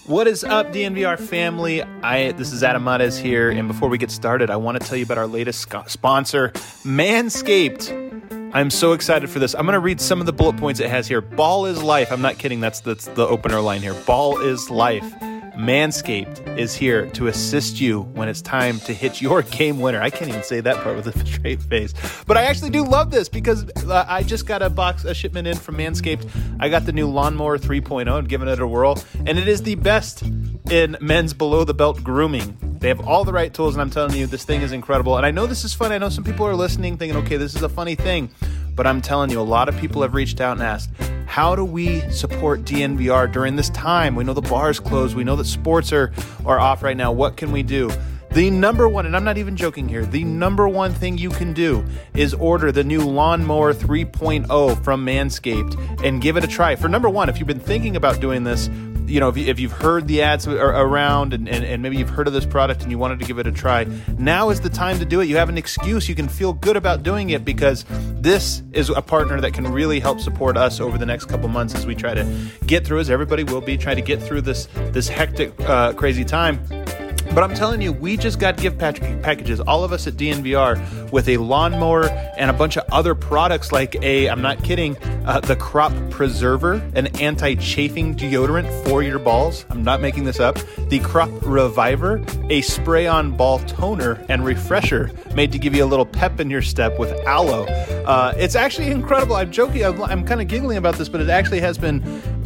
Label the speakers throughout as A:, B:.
A: What is up, DNVR family? This is Adam Mares here, and before we get started, I want to tell you about our latest sponsor, Manscaped. I'm so excited for this. I'm going to read some of the bullet points it has here. Ball is life. I'm not kidding. That's the opener line here. Ball is life. Manscaped is here to assist you when it's time to hit your game winner. I can't even say that part with a straight face. But I actually do love this because I just got a shipment in from Manscaped. I got the new Lawnmower 3.0 and giving it a whirl. And it is the best in men's below-the-belt grooming. They have all the right tools, and I'm telling you, this thing is incredible. And I know this is fun. I know some people are listening thinking, okay, this is a funny thing. But I'm telling you, a lot of people have reached out and asked, how do we support DNVR during this time? We know the bar's closed. We know that sports are off right now. What can we do? The number one, and I'm not even joking here, the number one thing you can do is order the new Lawnmower 3.0 from Manscaped and give it a try. For number one, if you've been thinking about doing this, you know, if you've heard the ads around and maybe you've heard of this product and you wanted to give it a try, now is the time to do it. You have an excuse. You can feel good about doing it because this is a partner that can really help support us over the next couple months as we try to get through, as everybody will be, trying to get through this hectic, crazy time. But I'm telling you, we just got gift packages, all of us at DNVR, with a lawnmower and a bunch of other products like I'm not kidding, the Crop Preserver, an anti-chafing deodorant for your balls. I'm not making this up. The Crop Reviver, a spray-on ball toner and refresher made to give you a little pep in your step with aloe. It's actually incredible. I'm joking. I'm kind of giggling about this, but it actually has been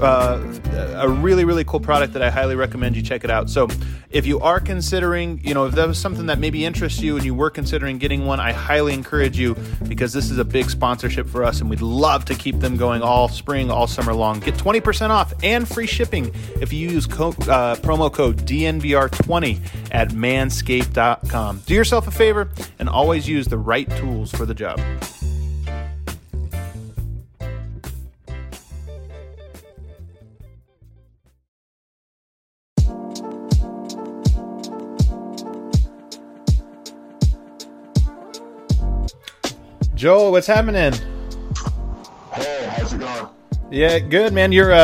A: a really, really cool product that I highly recommend you check it out. So if you are considering, if that was something that maybe interests you and you were considering getting one, I highly encourage you because this is a big sponsorship for us and we'd love to keep them going all spring, all summer long. Get 20% off and free shipping if you use promo code DNVR20 at manscaped.com. Do yourself a favor and always use the right tools for the job. Joel, what's happening?
B: Hey, how's it going?
A: Yeah, good, man. You're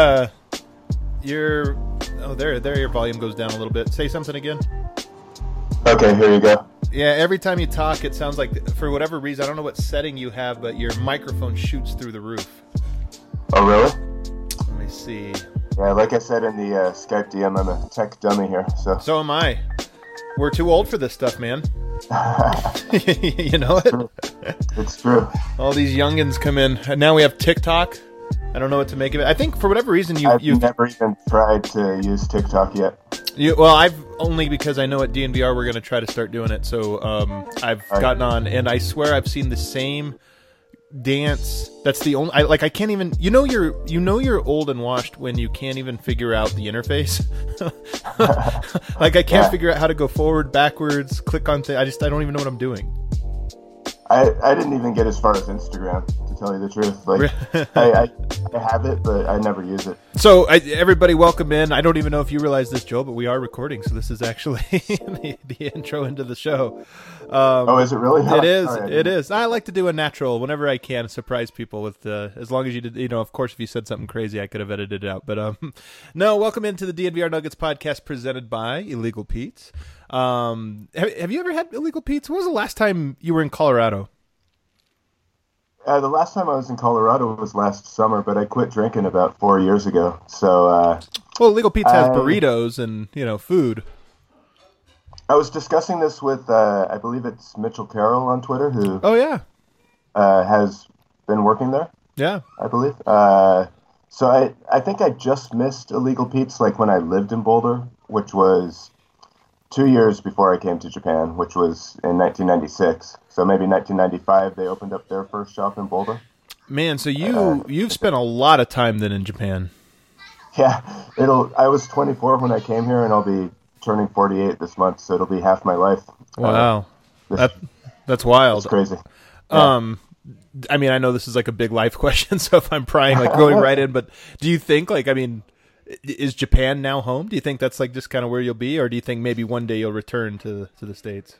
A: there your volume goes down a little bit. Say something again.
B: Okay, here you go.
A: Yeah, every time you talk, it sounds like, for whatever reason, I don't know what setting you have, but your microphone shoots through the roof.
B: Oh, really?
A: Let me see.
B: Yeah, like I said in the Skype DM, I'm a tech dummy here, so.
A: So am I. We're too old for this stuff, man. You know it?
B: It's true.
A: All these youngins come in, and now we have TikTok. I don't know what to make of it. I think for whatever reason you've
B: never even tried to use TikTok yet.
A: Well, I've only because I know at DNVR we're going to try to start doing it. So I've gotten on, and I swear I've seen the same dance. That's the only. I can't even. You're old and washed when you can't even figure out the interface. I can't figure out how to go forward, backwards, click on things. I don't even know what I'm doing.
B: I didn't even get as far as Instagram, to tell you the truth. I have it, but I never use it.
A: So everybody, welcome in. I don't even know if you realize this, Joel, but we are recording, so this is actually the intro into the show.
B: Is it really?
A: It is. Right. It is. I like to do a natural whenever I can, surprise people with as long as you did. Of course, if you said something crazy, I could have edited it out. But no, welcome into the DNVR Nuggets podcast presented by Illegal Pete's. Have you ever had Illegal Pete's? When was the last time you were in Colorado?
B: The last time I was in Colorado was last summer, but I quit drinking about 4 years ago. So,
A: Illegal Pete's has burritos and food.
B: I was discussing this with I believe it's Mitchell Carroll on Twitter, who has been working there.
A: Yeah,
B: I believe. So I think I just missed Illegal Pete's when I lived in Boulder, which was 2 years before I came to Japan, which was in 1996. So maybe 1995 they opened up their first shop in Boulder.
A: Man, so you've spent a lot of time then in Japan.
B: Yeah, I was 24 when I came here, and I'll be turning 48 this month, so it'll be half my life.
A: Wow, that's wild.
B: That's crazy.
A: Yeah. I mean, I know this is a big life question, so if I'm prying, going right in, but do you think, is Japan now home? Do you think that's just kind of where you'll be, or do you think maybe one day you'll return to the States?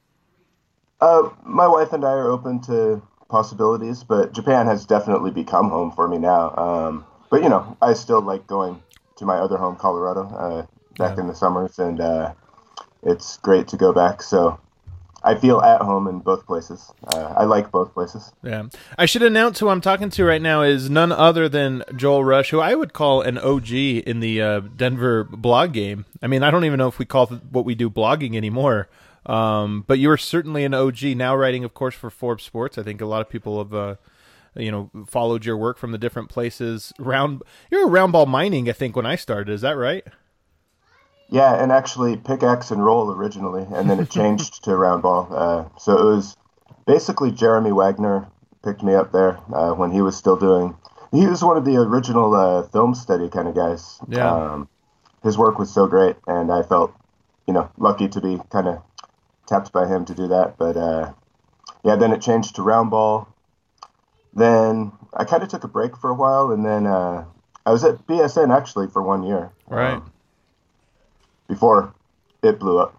B: My wife and I are open to possibilities, but Japan has definitely become home for me now. But I still like going to my other home, Colorado. back in the summers, and it's great to go back. So I feel at home in both places. I like both places.
A: Yeah. I should announce who I'm talking to right now is none other than Joel Rush, who I would call an OG in the Denver blog game. I mean, I don't even know if we call what we do blogging anymore. But you are certainly an OG now, writing, of course, for Forbes Sports. I think a lot of people have, followed your work from the different places. You're a round ball mining, I think, when I started. Is that right?
B: Yeah, and actually pickaxe and roll originally, and then it changed to round ball. So it was basically Jeremy Wagner picked me up there when he was still doing. He was one of the original film study kind of guys.
A: Yeah.
B: His work was so great, and I felt, lucky to be kind of tapped by him to do that. But then it changed to round ball. Then I kind of took a break for a while, and then I was at BSN actually for 1 year.
A: Right.
B: Before it blew up.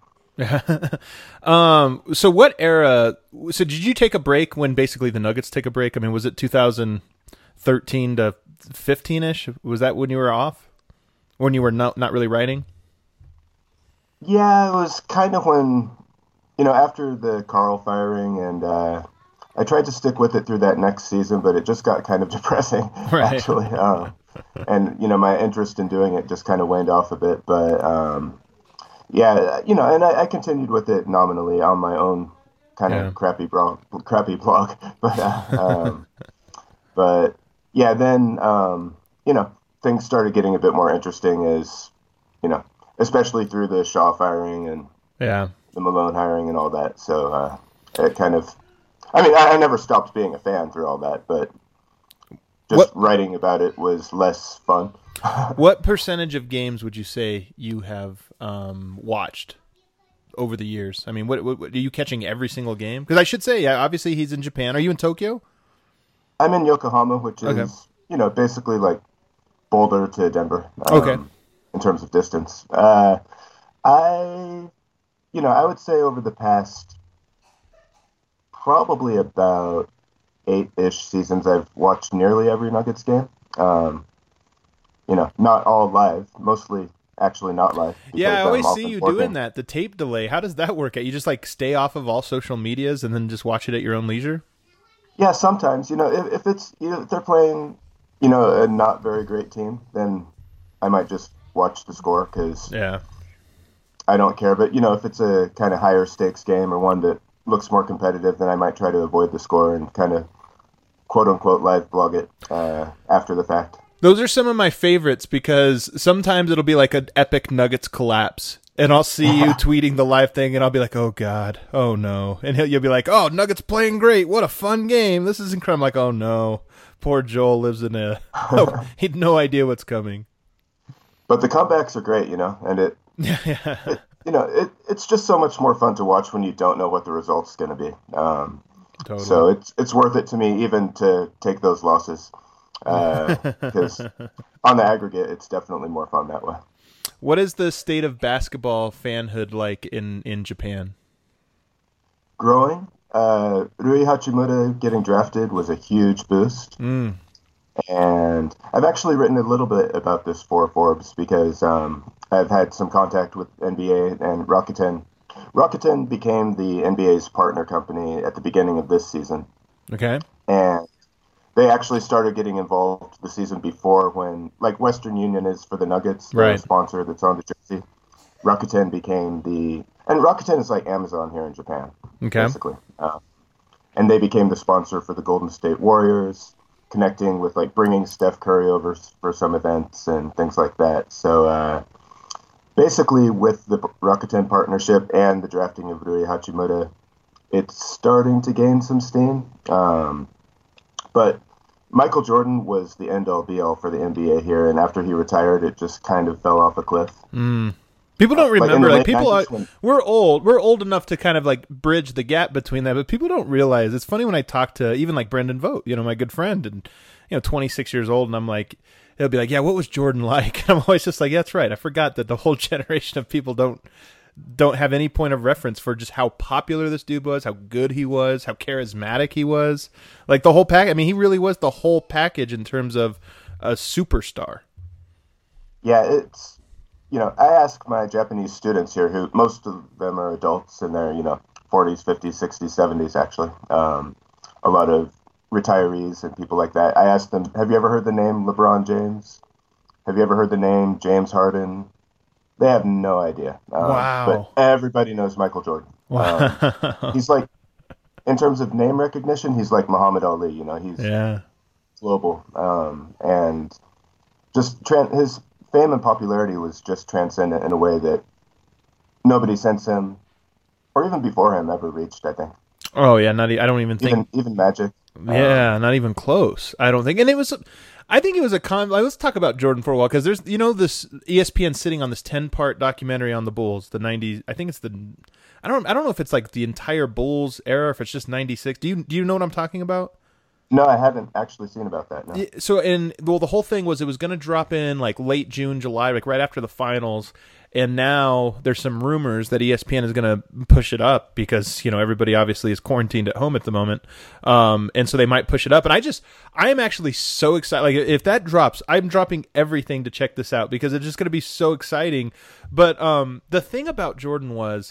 A: So what era? So did you take a break when basically the Nuggets take a break? I mean, was it 2013 to 15ish? Was that when you were off? When you were not really writing?
B: Yeah, it was kind of when, after the Carl firing, and I tried to stick with it through that next season, but it just got kind of depressing,
A: right.
B: Actually. And, my interest in doing it just kind of waned off a bit. But, and I continued with it nominally on my own kind of crappy blog. But then, things started getting a bit more interesting as, especially through the Shaw firing and the Malone hiring and all that. So it kind of, I never stopped being a fan through all that, but just writing about it was less fun.
A: What percentage of games would you say you have watched over the years? I mean, what are you catching every single game? Because I should say, obviously he's in Japan. Are you in Tokyo?
B: I'm in Yokohama, which is, basically like Boulder to Denver. In terms of distance. I would say over the past probably about 8-ish seasons, I've watched nearly every Nuggets game. Not all live, mostly actually not live.
A: Yeah, I always see you doing that, the tape delay. How does that work? You just like stay off of all social medias and then just watch it at your own leisure?
B: Yeah, sometimes, if it's, if they're playing, a not very great team, then I might just watch the score because I don't care. But, if it's a kind of higher stakes game or one that looks more competitive, then I might try to avoid the score and kind of quote-unquote live blog it after the fact.
A: Those are some of my favorites because sometimes it'll be like an epic Nuggets collapse, and I'll see you tweeting the live thing, and I'll be like, oh, God, oh, no. And you'll be like, oh, Nuggets playing great. What a fun game. This is incredible. I'm like, oh, no. Poor Joel lives in he had no idea what's coming.
B: But the comebacks are great, and it's just so much more fun to watch when you don't know what the result's going to be.
A: Totally.
B: So it's worth it to me even to take those losses because on the aggregate, it's definitely more fun that way.
A: What is the state of basketball fanhood like in Japan?
B: Growing. Rui Hachimura getting drafted was a huge boost. And I've actually written a little bit about this for Forbes because I've had some contact with NBA and Rakuten. Rakuten became the NBA's partner company at the beginning of this season.
A: Okay.
B: And they actually started getting involved the season before when, like Western Union is for the Nuggets, the sponsor that's on the jersey. Rakuten became and Rakuten is like Amazon here in Japan, basically. And they became the sponsor for the Golden State Warriors, connecting with like bringing Steph Curry over for some events and things like that. So basically with the Rakuten partnership and the drafting of Rui Hachimura, it's starting to gain some steam. But Michael Jordan was the end-all be-all for the NBA here, and after he retired, it just kind of fell off a cliff.
A: People don't remember. Like people are,
B: when...
A: we're old. We're old enough to kind of like bridge the gap between that, but people don't realize. It's funny when I talk to even like Brendan Vogt, my good friend, and 26 years old, and I'm like, he'll be like, "Yeah, what was Jordan like?" And I'm always just like, "Yeah, that's right. I forgot that the whole generation of people don't have any point of reference for just how popular this dude was, how good he was, how charismatic he was, like the whole pack. I mean, he really was the whole package in terms of a superstar."
B: Yeah, I ask my Japanese students here, who most of them are adults in their, 40s, 50s, 60s, 70s, actually. A lot of retirees and people like that. I ask them, have you ever heard the name LeBron James? Have you ever heard the name James Harden? They have no idea. But
A: Wow.
B: everybody knows Michael Jordan.
A: Wow.
B: He's like, in terms of name recognition, he's like Muhammad Ali. He's
A: Yeah.
B: global. And just his fame and popularity was just transcendent in a way that nobody since him, or even before him, ever reached, I think.
A: Oh yeah, I don't even think.
B: Even Magic.
A: Yeah, not even close. I don't think. And it was. I think it was a let's talk about Jordan for a while, because there's this ESPN sitting on this 10-part documentary on the Bulls, the '90s. I think it's the. I don't know if it's like the entire Bulls era, or if it's just '96. Do you know what I'm talking about?
B: No, I haven't actually seen about that. No.
A: So, the whole thing was, it was going to drop in like late June, July, like right after the finals. And now there's some rumors that ESPN is going to push it up because, everybody obviously is quarantined at home at the moment. And so they might push it up. And I am actually so excited. Like, if that drops, I'm dropping everything to check this out, because it's just going to be so exciting. But the thing about Jordan was,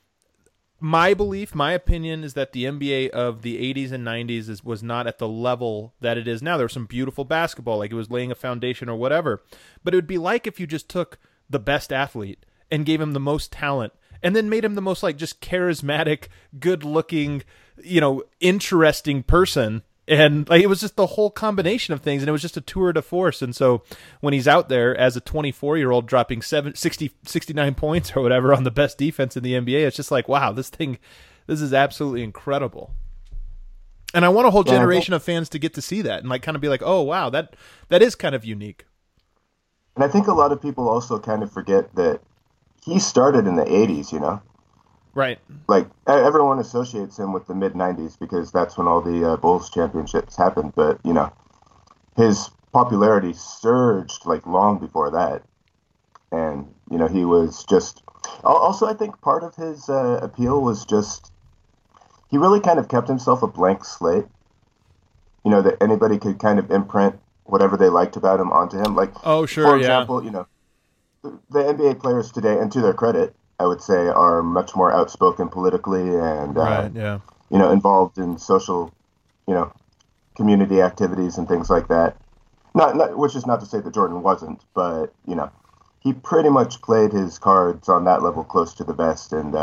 A: my belief, my opinion, is that the NBA of the 80s and 90s was not at the level that it is now. There was some beautiful basketball, like it was laying a foundation or whatever. But it would be like if you just took the best athlete and gave him the most talent and then made him the most, like, just charismatic, good-looking, interesting person. And like, it was just the whole combination of things, and it was just a tour de force. And so when he's out there as a 24-year-old dropping 69 points or whatever on the best defense in the NBA, it's just like, wow, this is absolutely incredible. And I want a whole generation of fans to get to see that and like kind of be like, oh wow, that is kind of unique.
B: And I think a lot of people also kind of forget that he started in the 80s,
A: Right.
B: Like, everyone associates him with the mid 90s because that's when all the Bulls championships happened. But, his popularity surged like long before that. And, he was just. Also, I think part of his appeal was just. He really kind of kept himself a blank slate. That anybody could kind of imprint whatever they liked about him onto him. Like,
A: oh, sure,
B: for example, the NBA players today, and to their credit, I would say, are much more outspoken politically and,
A: right, yeah.
B: Involved in social, community activities and things like that. Not, which is not to say that Jordan wasn't, but, he pretty much played his cards on that level close to the vest. And,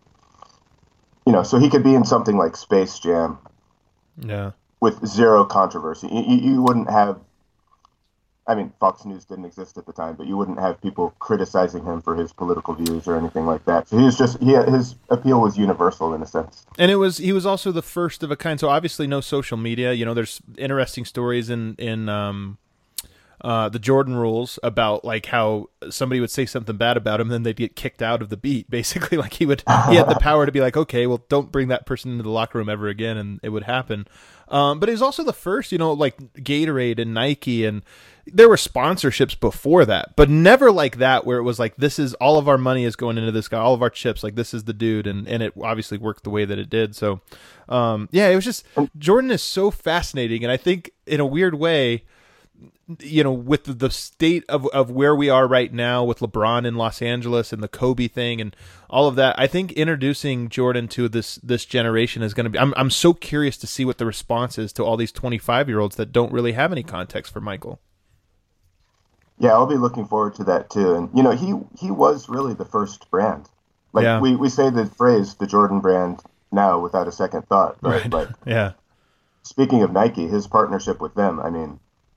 B: so he could be in something like Space Jam.
A: Yeah.
B: With zero controversy. You wouldn't have. I mean, Fox News didn't exist at the time, but you wouldn't have people criticizing him for his political views or anything like that. So his appeal was universal in a sense.
A: And he was also the first of a kind. So obviously no social media. There's interesting stories in the Jordan rules about like how somebody would say something bad about him, then they'd get kicked out of the beat. Basically, like he had the power to be like, okay, well, don't bring that person into the locker room ever again, and it would happen. But he was also the first, like Gatorade and Nike, and there were sponsorships before that, but never like that, where it was like, this is all of our money is going into this guy, all of our chips, like this is the dude, and it obviously worked the way that it did. So, it was just, Jordan is so fascinating, and I think in a weird way, with the state of where we are right now with LeBron in Los Angeles and the Kobe thing and all of that, I think introducing Jordan to this generation is going to be, I'm so curious to see what the response is to all these 25-year-olds that don't really have any context for Michael.
B: Yeah, I'll be looking forward to that too. And he was really the first brand. Like, yeah. we say the phrase the Jordan brand now without a second thought, but
A: right.
B: Like,
A: yeah.
B: Speaking of Nike, his partnership with them, I mean,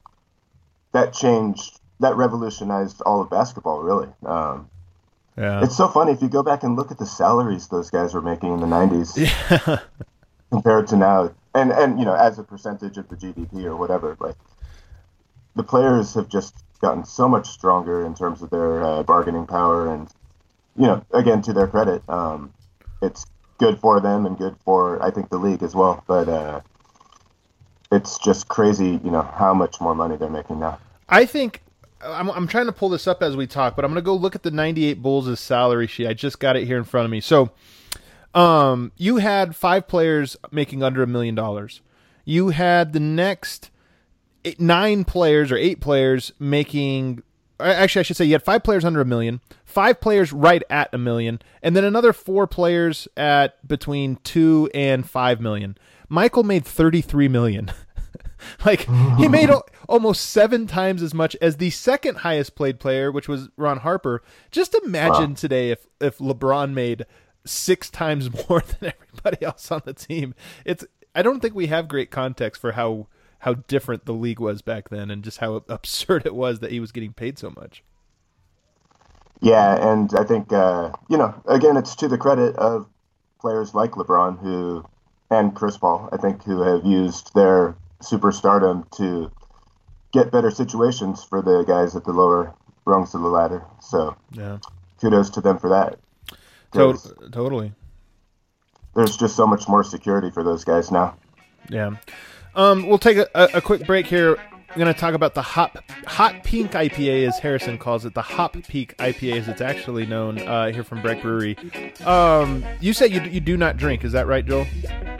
B: that revolutionized all of basketball, really.
A: Yeah.
B: It's so funny if you go back and look at the salaries those guys were making in the 90s
A: yeah.
B: compared to now, and as a percentage of the GDP or whatever, like, the players have just gotten so much stronger in terms of their bargaining power, and again, to their credit, it's good for them and good for, I think, the league as well. But it's just crazy, how much more money they're making now.
A: I think I'm trying to pull this up as we talk, but I'm going to go look at the 98 Bulls' salary sheet. I just got it here in front of me. So, you had 5 players making under $1 million. You had the next 8 players making actually, I should say you had 5 players under $1 million, 5 players right at $1 million, and then another 4 players at between $2 and $5 million. Michael made $33 million. Like, he made almost 7 times as much as the second highest played player, which was Ron Harper. Just imagine today if LeBron made 6 times more than everybody else on the team. I don't think we have great context for how different the league was back then and just how absurd it was that he was getting paid so much.
B: Yeah, and I think, again, it's to the credit of players like LeBron and Chris Paul, I think, who have used their superstardom to get better situations for the guys at the lower rungs of the ladder. So yeah, kudos to them for that.
A: Totally.
B: There's just so much more security for those guys now.
A: Yeah. We'll take a quick break here. I'm going to talk about the Hot Pink IPA, as Harrison calls it, the Hop Peak IPA, as it's actually known here from Breck Brewery. You say you do not drink, is that right, Joel?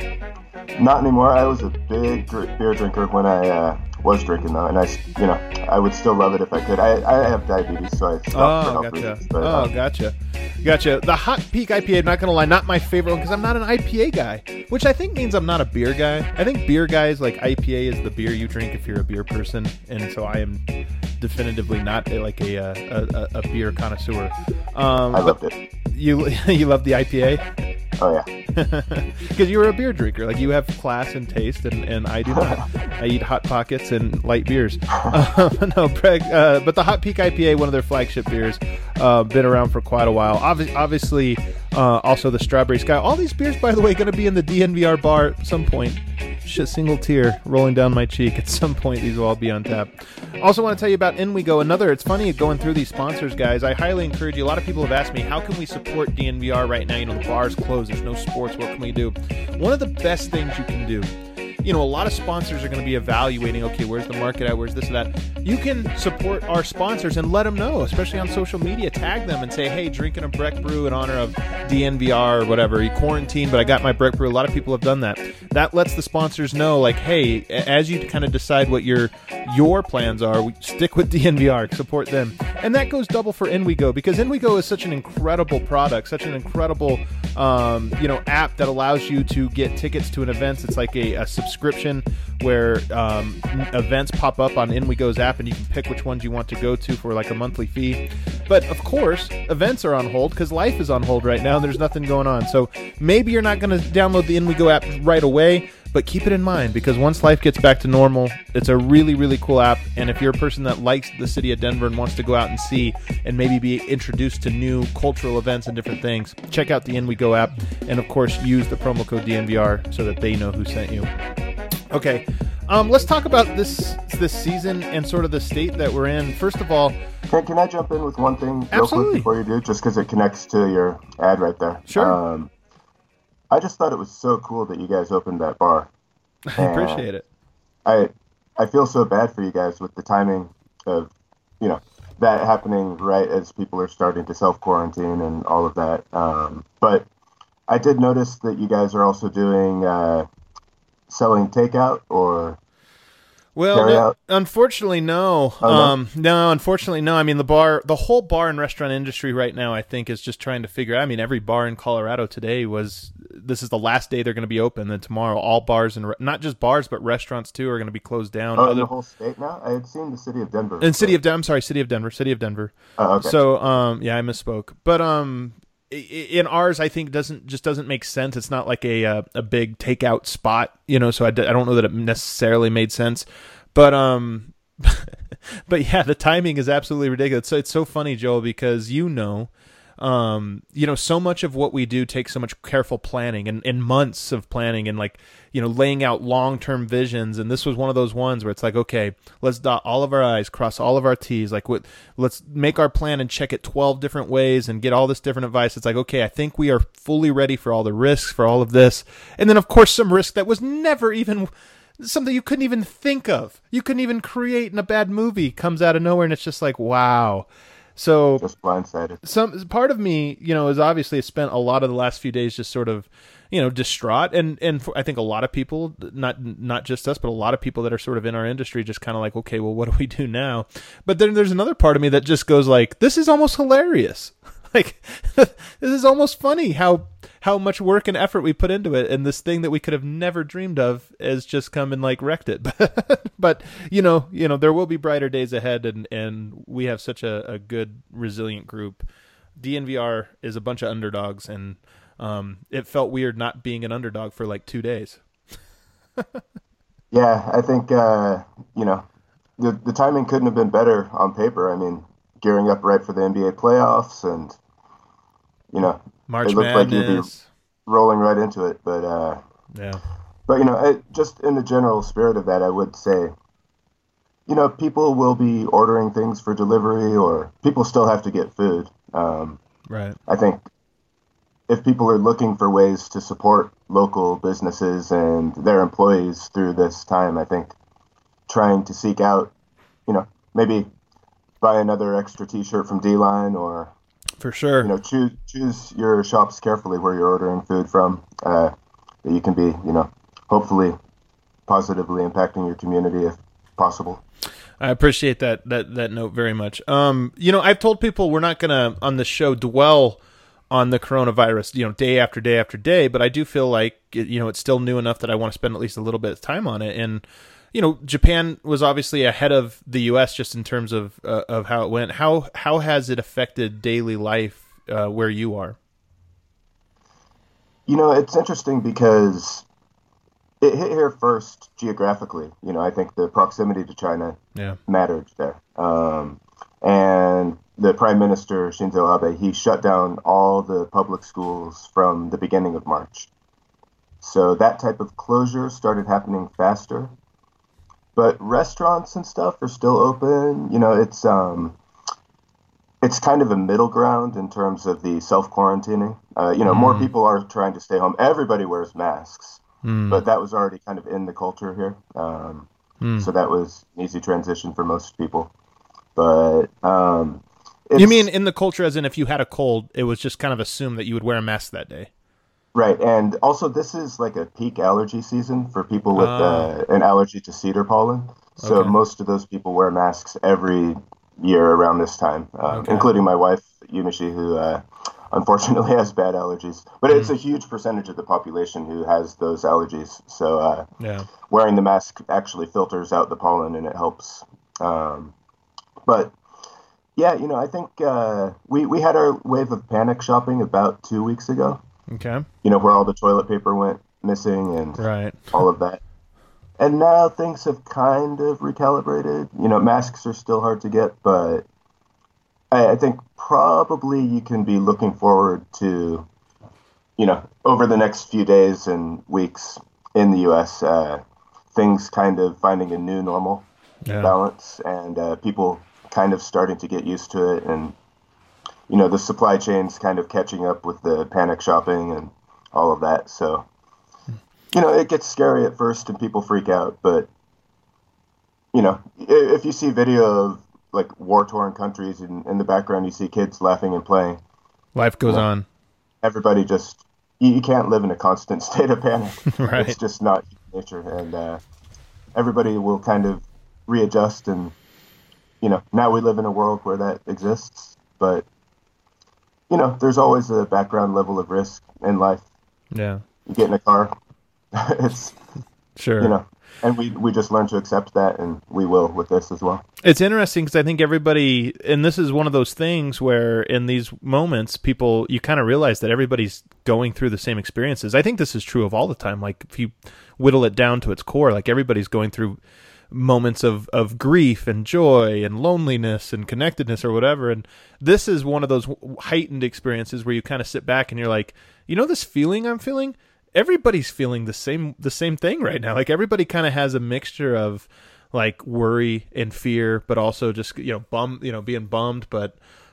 B: Not anymore. I was a big beer drinker when I was drinking, though, and I would still love it if I could. I have diabetes, so I stopped for health reasons. But,
A: Gotcha. The Hot Peak IPA, I'm not going to lie, not my favorite one because I'm not an IPA guy, which I think means I'm not a beer guy. I think beer guys, like IPA is the beer you drink if you're a beer person, and so I am definitively not a beer connoisseur.
B: I loved it.
A: You love the IPA?
B: Oh, yeah.
A: Because you were a beer drinker. Like, you have class and taste, and I do not. I eat Hot Pockets and light beers. No, Greg, but the Hot Peak IPA, one of their flagship beers, been around for quite a while. Obviously, also the Strawberry Sky. All these beers, by the way, going to be in the DNVR bar at some point. Single tear rolling down my cheek. At some point, these will all be on tap. Also want to tell you about In We Go. It's funny going through these sponsors, guys. I highly encourage you. A lot of people have asked me, how can we support DNVR right now? The bar's closed. There's no sports. What can we do? One of the best things you can do, a lot of sponsors are going to be evaluating, okay, where's the market at? Where's this or that? You can support our sponsors and let them know, especially on social media. Tag them and say, hey, drinking a Breck Brew in honor of DNVR or whatever. You quarantine, but I got my Breck Brew. A lot of people have done that. That lets the sponsors know, like, hey, as you kind of decide what your plans are, stick with DNVR, support them. And that goes double for In We Go, because In We Go is such an incredible product, such an incredible app that allows you to get tickets to an event. It's like a subscription where events pop up on In We Go's app, and you can pick which ones you want to go to for like a monthly fee. But of course, events are on hold because life is on hold right now and there's nothing going on. So maybe you're not going to download the In We Go app right away, but keep it in mind, because once life gets back to normal, it's a really, really cool app. And if you're a person that likes the city of Denver and wants to go out and see and maybe be introduced to new cultural events and different things, check out the In We Go app. And of course, use the promo code DNVR so that they know who sent you. Okay, let's talk about this season and sort of the state that we're in. First of all,
B: can I jump in with one thing real quick before you do, just because it connects to your ad right there?
A: Sure.
B: I just thought it was so cool that you guys opened that bar.
A: I appreciate it.
B: I feel so bad for you guys with the timing of, that happening right as people are starting to self-quarantine and all of that. But I did notice that you guys are also doing selling takeout or
A: Well, unfortunately, no.
B: Oh,
A: no, unfortunately, no. I mean, the whole bar and restaurant industry right now, I think, is just trying to figure out. I mean, every bar in Colorado today this is the last day they're going to be open. Then tomorrow, all bars and not just bars, but restaurants too are going to be closed down.
B: In the whole state now? I had seen the city of Denver.
A: City of Denver.
B: Oh, okay.
A: So, yeah, I misspoke. But in ours, I think doesn't make sense. It's not like a big takeout spot, so I don't know that it necessarily made sense. But but yeah, the timing is absolutely ridiculous. So it's so funny, Joel, because so much of what we do takes so much careful planning and months of planning and laying out long-term visions. And this was one of those ones where it's like, okay, let's dot all of our I's, cross all of our T's. Let's make our plan and check it 12 different ways and get all this different advice. It's like, okay, I think we are fully ready for all the risks, for all of this. And then of course, some risk that was never even something you couldn't even think of. You couldn't even create in a bad movie comes out of nowhere. And it's just like, wow. So
B: just blindsided.
A: some part of me, is obviously spent a lot of the last few days just sort of, distraught, and I think a lot of people, not just us, but a lot of people that are sort of in our industry, just kind of like, okay, well, what do we do now? But then there's another part of me that just goes like, this is almost hilarious. Like, this is almost funny how much work and effort we put into it, and this thing that we could have never dreamed of has just come and like wrecked it. But there will be brighter days ahead, and we have such a good, resilient group. DNVR is a bunch of underdogs, and it felt weird not being an underdog for like 2 days.
B: Yeah, I think the timing couldn't have been better on paper. I mean, gearing up right for the NBA playoffs, and
A: March
B: it looked like you'd be
A: Madness.
B: rolling right into it. But
A: Yeah.
B: just in the general spirit of that, I would say, people will be ordering things for delivery, or people still have to get food.
A: Right.
B: I think if people are looking for ways to support local businesses and their employees through this time, I think trying to seek out, maybe buy another extra T-shirt from D-Line, or
A: For sure.
B: choose your shops carefully where you're ordering food from, that you can be, hopefully positively impacting your community if possible.
A: I appreciate that note very much. I've told people we're not going to, on the show, dwell on the coronavirus, day after day after day, but I do feel like, it's still new enough that I want to spend at least a little bit of time on it. And, Japan was obviously ahead of the U.S. just in terms of how it went. How has it affected daily life where you are?
B: It's interesting because it hit here first geographically. I think the proximity to China mattered there. And the Prime Minister, Shinzo Abe, he shut down all the public schools from the beginning of March. So that type of closure started happening faster. But restaurants and stuff are still open. It's kind of a middle ground in terms of the self-quarantining. More people are trying to stay home. Everybody wears masks, but that was already kind of in the culture here. So that was an easy transition for most people. But
A: you mean in the culture, as in if you had a cold, it was just kind of assumed that you would wear a mask that day?
B: Right, and also this is like a peak allergy season for people with an allergy to cedar pollen. So most of those people wear masks every year around this time, including my wife, Yumishi, who unfortunately has bad allergies. But it's a huge percentage of the population who has those allergies. So wearing the mask actually filters out the pollen, and it helps. But yeah, I think we had our wave of panic shopping about 2 weeks ago.
A: Okay.
B: Where all the toilet paper went missing and
A: right.
B: all of that. And now things have kind of recalibrated. Masks are still hard to get, but I think probably you can be looking forward to, over the next few days and weeks in the U.S., things kind of finding a new normal balance, and people kind of starting to get used to it, and the supply chain's kind of catching up with the panic shopping and all of that. So, it gets scary at first and people freak out. But, if you see video of like war-torn countries and in the background, you see kids laughing and playing.
A: Life goes on.
B: Everybody just, you can't live in a constant state of panic.
A: Right.
B: It's just not nature. And everybody will kind of readjust. And, now we live in a world where that exists. But there's always a background level of risk in life.
A: Yeah.
B: You get in a car, it's,
A: sure.
B: And we just learn to accept that, and we will with this as well.
A: It's interesting because I think everybody, and this is one of those things where in these moments, you kind of realize that everybody's going through the same experiences. I think this is true of all the time. Like if you whittle it down to its core, like everybody's going through moments of grief and joy and loneliness and connectedness or whatever. And this is one of those heightened experiences where you kind of sit back and you're like, this feeling I'm feeling, everybody's feeling the same thing right now. Like everybody kind of has a mixture of like worry and fear, but also just, being bummed, but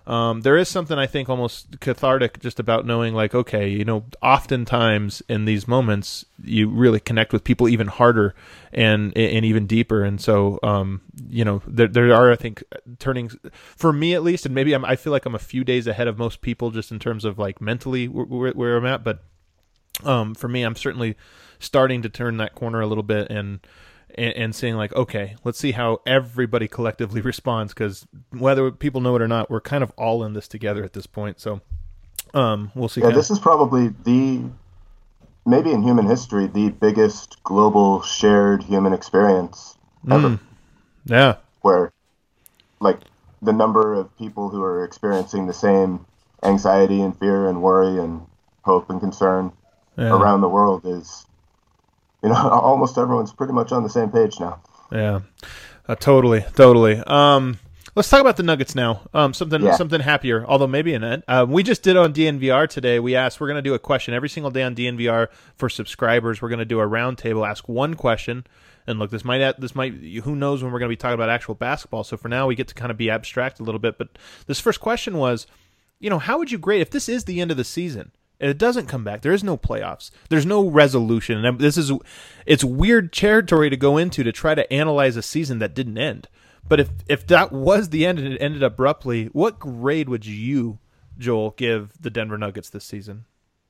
A: There is something I think almost cathartic just about knowing, like, okay, oftentimes in these moments you really connect with people even harder and even deeper. And so, there are, I think, turning for me at least, and maybe I feel like I'm a few days ahead of most people just in terms of like mentally where I'm at. But for me, I'm certainly starting to turn that corner a little bit and saying like, okay, let's see how everybody collectively responds, because whether people know it or not, we're kind of all in this together at this point. So we'll see.
B: Yeah, this is probably maybe in human history, the biggest global shared human experience ever.
A: Yeah.
B: Where, like, the number of people who are experiencing the same anxiety and fear and worry and hope and concern around the world is, almost everyone's pretty much on the same page now.
A: Yeah, totally. Let's talk about the Nuggets now. Something happier, although maybe in it. We just did on DNVR today. We're going to do a question every single day on DNVR for subscribers. We're going to do a roundtable, ask one question. And look, this might, who knows when we're going to be talking about actual basketball. So for now, we get to kind of be abstract a little bit. But this first question was, how would you grade if this is the end of the season? It doesn't come back. There is no playoffs. There's no resolution. And it's weird territory to go into to try to analyze a season that didn't end. But if that was the end and it ended abruptly, what grade would you, Joel, give the Denver Nuggets this season?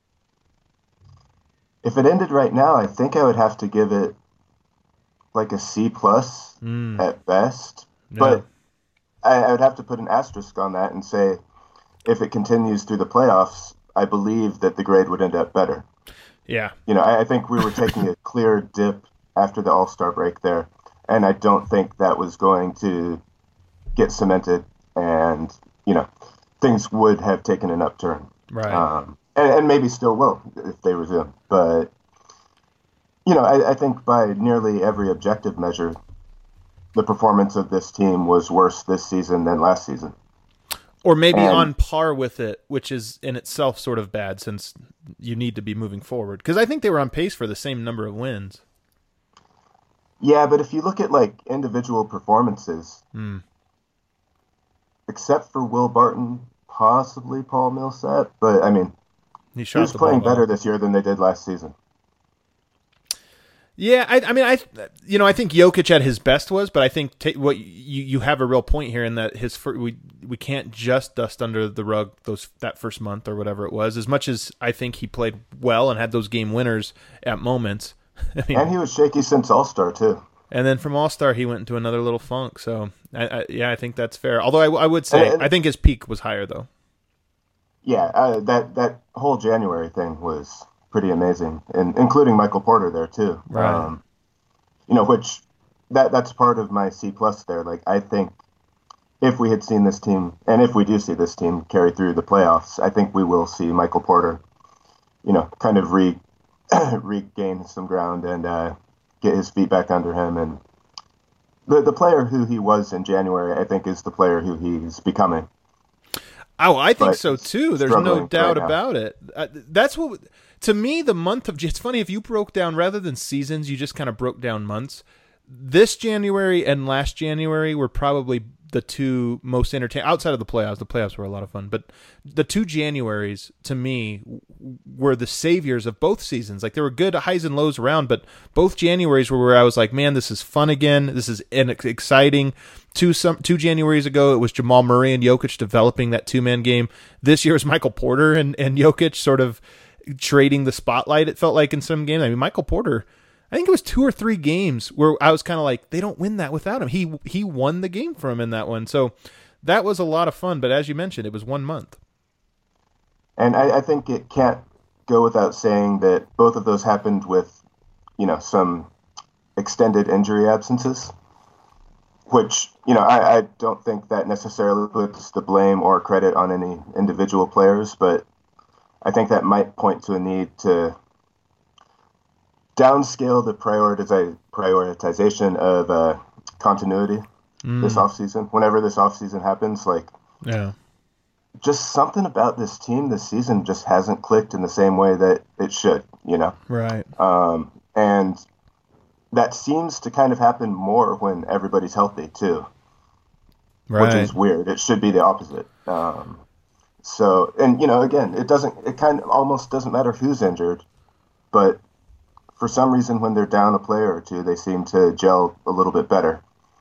B: If it ended right now, I think I would have to give it like a C+ at best. Yeah. But I would have to put an asterisk on that and say, if it continues through the playoffs, I believe that the grade would end up better.
A: Yeah.
B: I think we were taking a clear dip after the All-Star break there, and I don't think that was going to get cemented, and, things would have taken an upturn.
A: Right.
B: And maybe still will if they resume. But, I think by nearly every objective measure, the performance of this team was worse this season than last season.
A: Or maybe on par with it, which is in itself sort of bad since you need to be moving forward. Because I think they were on pace for the same number of wins.
B: Yeah, but if you look at like individual performances, except for Will Barton, possibly Paul Millsap, but I mean, he was playing better this year than they did last season.
A: Yeah, I think Jokic at his best was, but I think what you have a real point here in that we can't just dust under the rug that first month or whatever it was. As much as I think he played well and had those game winners at moments,
B: and he was shaky since All-Star too.
A: And then from All-Star, he went into another little funk. So I think that's fair. Although I would say I think his peak was higher though.
B: Yeah, that whole January thing was pretty amazing, and including Michael Porter there too.
A: Right.
B: Which that's part of my C+ there. Like, I think if we had seen this team, and if we do see this team carry through the playoffs, I think we will see Michael Porter, kind of regain some ground and get his feet back under him. And the player who he was in January, I think, is the player who he's becoming.
A: Oh, I think so too. There's no doubt about it. That's what. To me, the month of... It's funny, if you broke down, rather than seasons, you just kind of broke down months. This January and last January were probably the two most entertaining... Outside of the playoffs. The playoffs were a lot of fun. But the two Januaries, to me, were the saviors of both seasons. Like, there were good highs and lows around, but both Januaries were where I was like, man, this is fun again. This is exciting. Two Januaries ago, it was Jamal Murray and Jokic developing that two-man game. This year was Michael Porter and Jokic sort of trading the spotlight, it felt like, in some games. I mean, Michael Porter, I think it was 2 or 3 games where I was kind of like, they don't win that without him. He won the game for him in that one. So that was a lot of fun. But as you mentioned, it was 1 month.
B: And I think it can't go without saying that both of those happened with, some extended injury absences, which, I don't think that necessarily puts the blame or credit on any individual players, but I think that might point to a need to downscale the prioritization of continuity this offseason. Whenever this offseason happens, just something about this team this season just hasn't clicked in the same way that it should,
A: Right.
B: And that seems to kind of happen more when everybody's healthy, too. which
A: Right.
B: is weird. It should be the opposite. So, and again, it kind of almost doesn't matter who's injured, but for some reason, when they're down a player or two, they seem to gel a little bit better.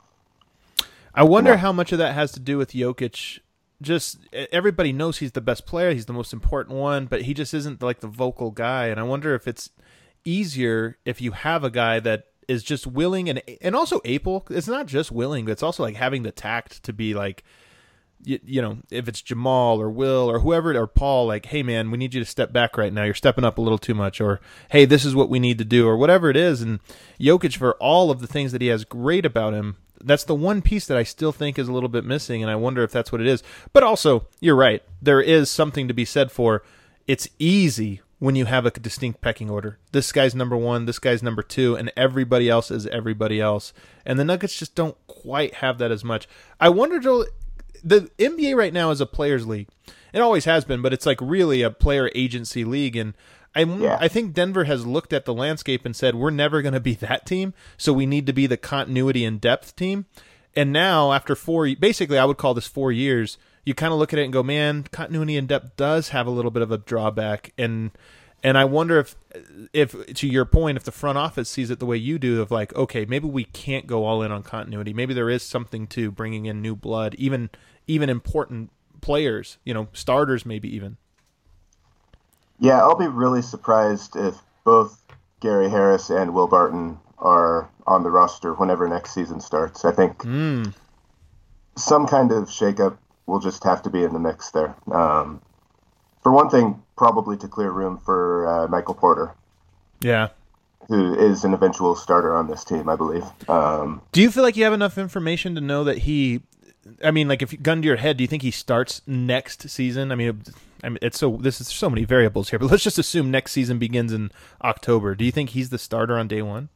A: I
B: You
A: wonder
B: know,
A: how much of that has to do with Jokic. Just everybody knows he's the best player, he's the most important one, but he just isn't like the vocal guy. And I wonder if it's easier if you have a guy that is just willing and also able. It's not just willing, but it's also like having the tact to be like, if it's Jamal or Will or whoever or Paul, like, hey man, we need you to step back right now. You're stepping up a little too much, or hey, this is what we need to do, or whatever it is. And Jokic, for all of the things that he has great about him, that's the one piece that I still think is a little bit missing, and I wonder if that's what it is. But also, you're right. There is something to be said for it's easy when you have a distinct pecking order. This guy's number one, this guy's number two, and everybody else is everybody else. And the Nuggets just don't quite have that as much. I wonder, Joel, the NBA right now is a players' league. It always has been, but it's like really a player agency league, and
B: yeah,
A: I think Denver has looked at the landscape and said, we're never going to be that team, so we need to be the continuity and depth team. And now, after basically I would call this 4 years, you kind of look at it and go, man, continuity and depth does have a little bit of a drawback. And I wonder if to your point, if the front office sees it the way you do, of like, okay, maybe we can't go all in on continuity. Maybe there is something to bringing in new blood, even important players, starters maybe even.
B: yeah. I'll be really surprised if both Gary Harris and Will Barton are on the roster whenever next season starts. I think some kind of shakeup will just have to be in the mix there. For one thing, probably to clear room for Michael Porter,
A: Yeah.
B: who is an eventual starter on this team, I believe.
A: Do you feel like you have enough information to know that like if you gun to your head, do you think he starts next season? I mean, this is so many variables here, but let's just assume next season begins in October. Do you think he's the starter on day one?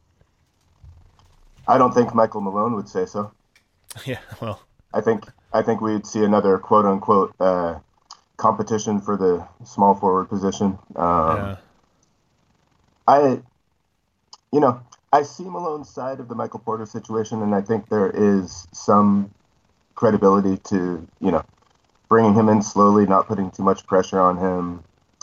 B: I don't think Michael Malone would say so.
A: Yeah, well,
B: I think we'd see another quote unquote competition for the small forward position.
A: yeah.
B: I I see Malone's side of the Michael Porter situation, and I think there is some credibility to bringing him in slowly, not putting too much pressure on him.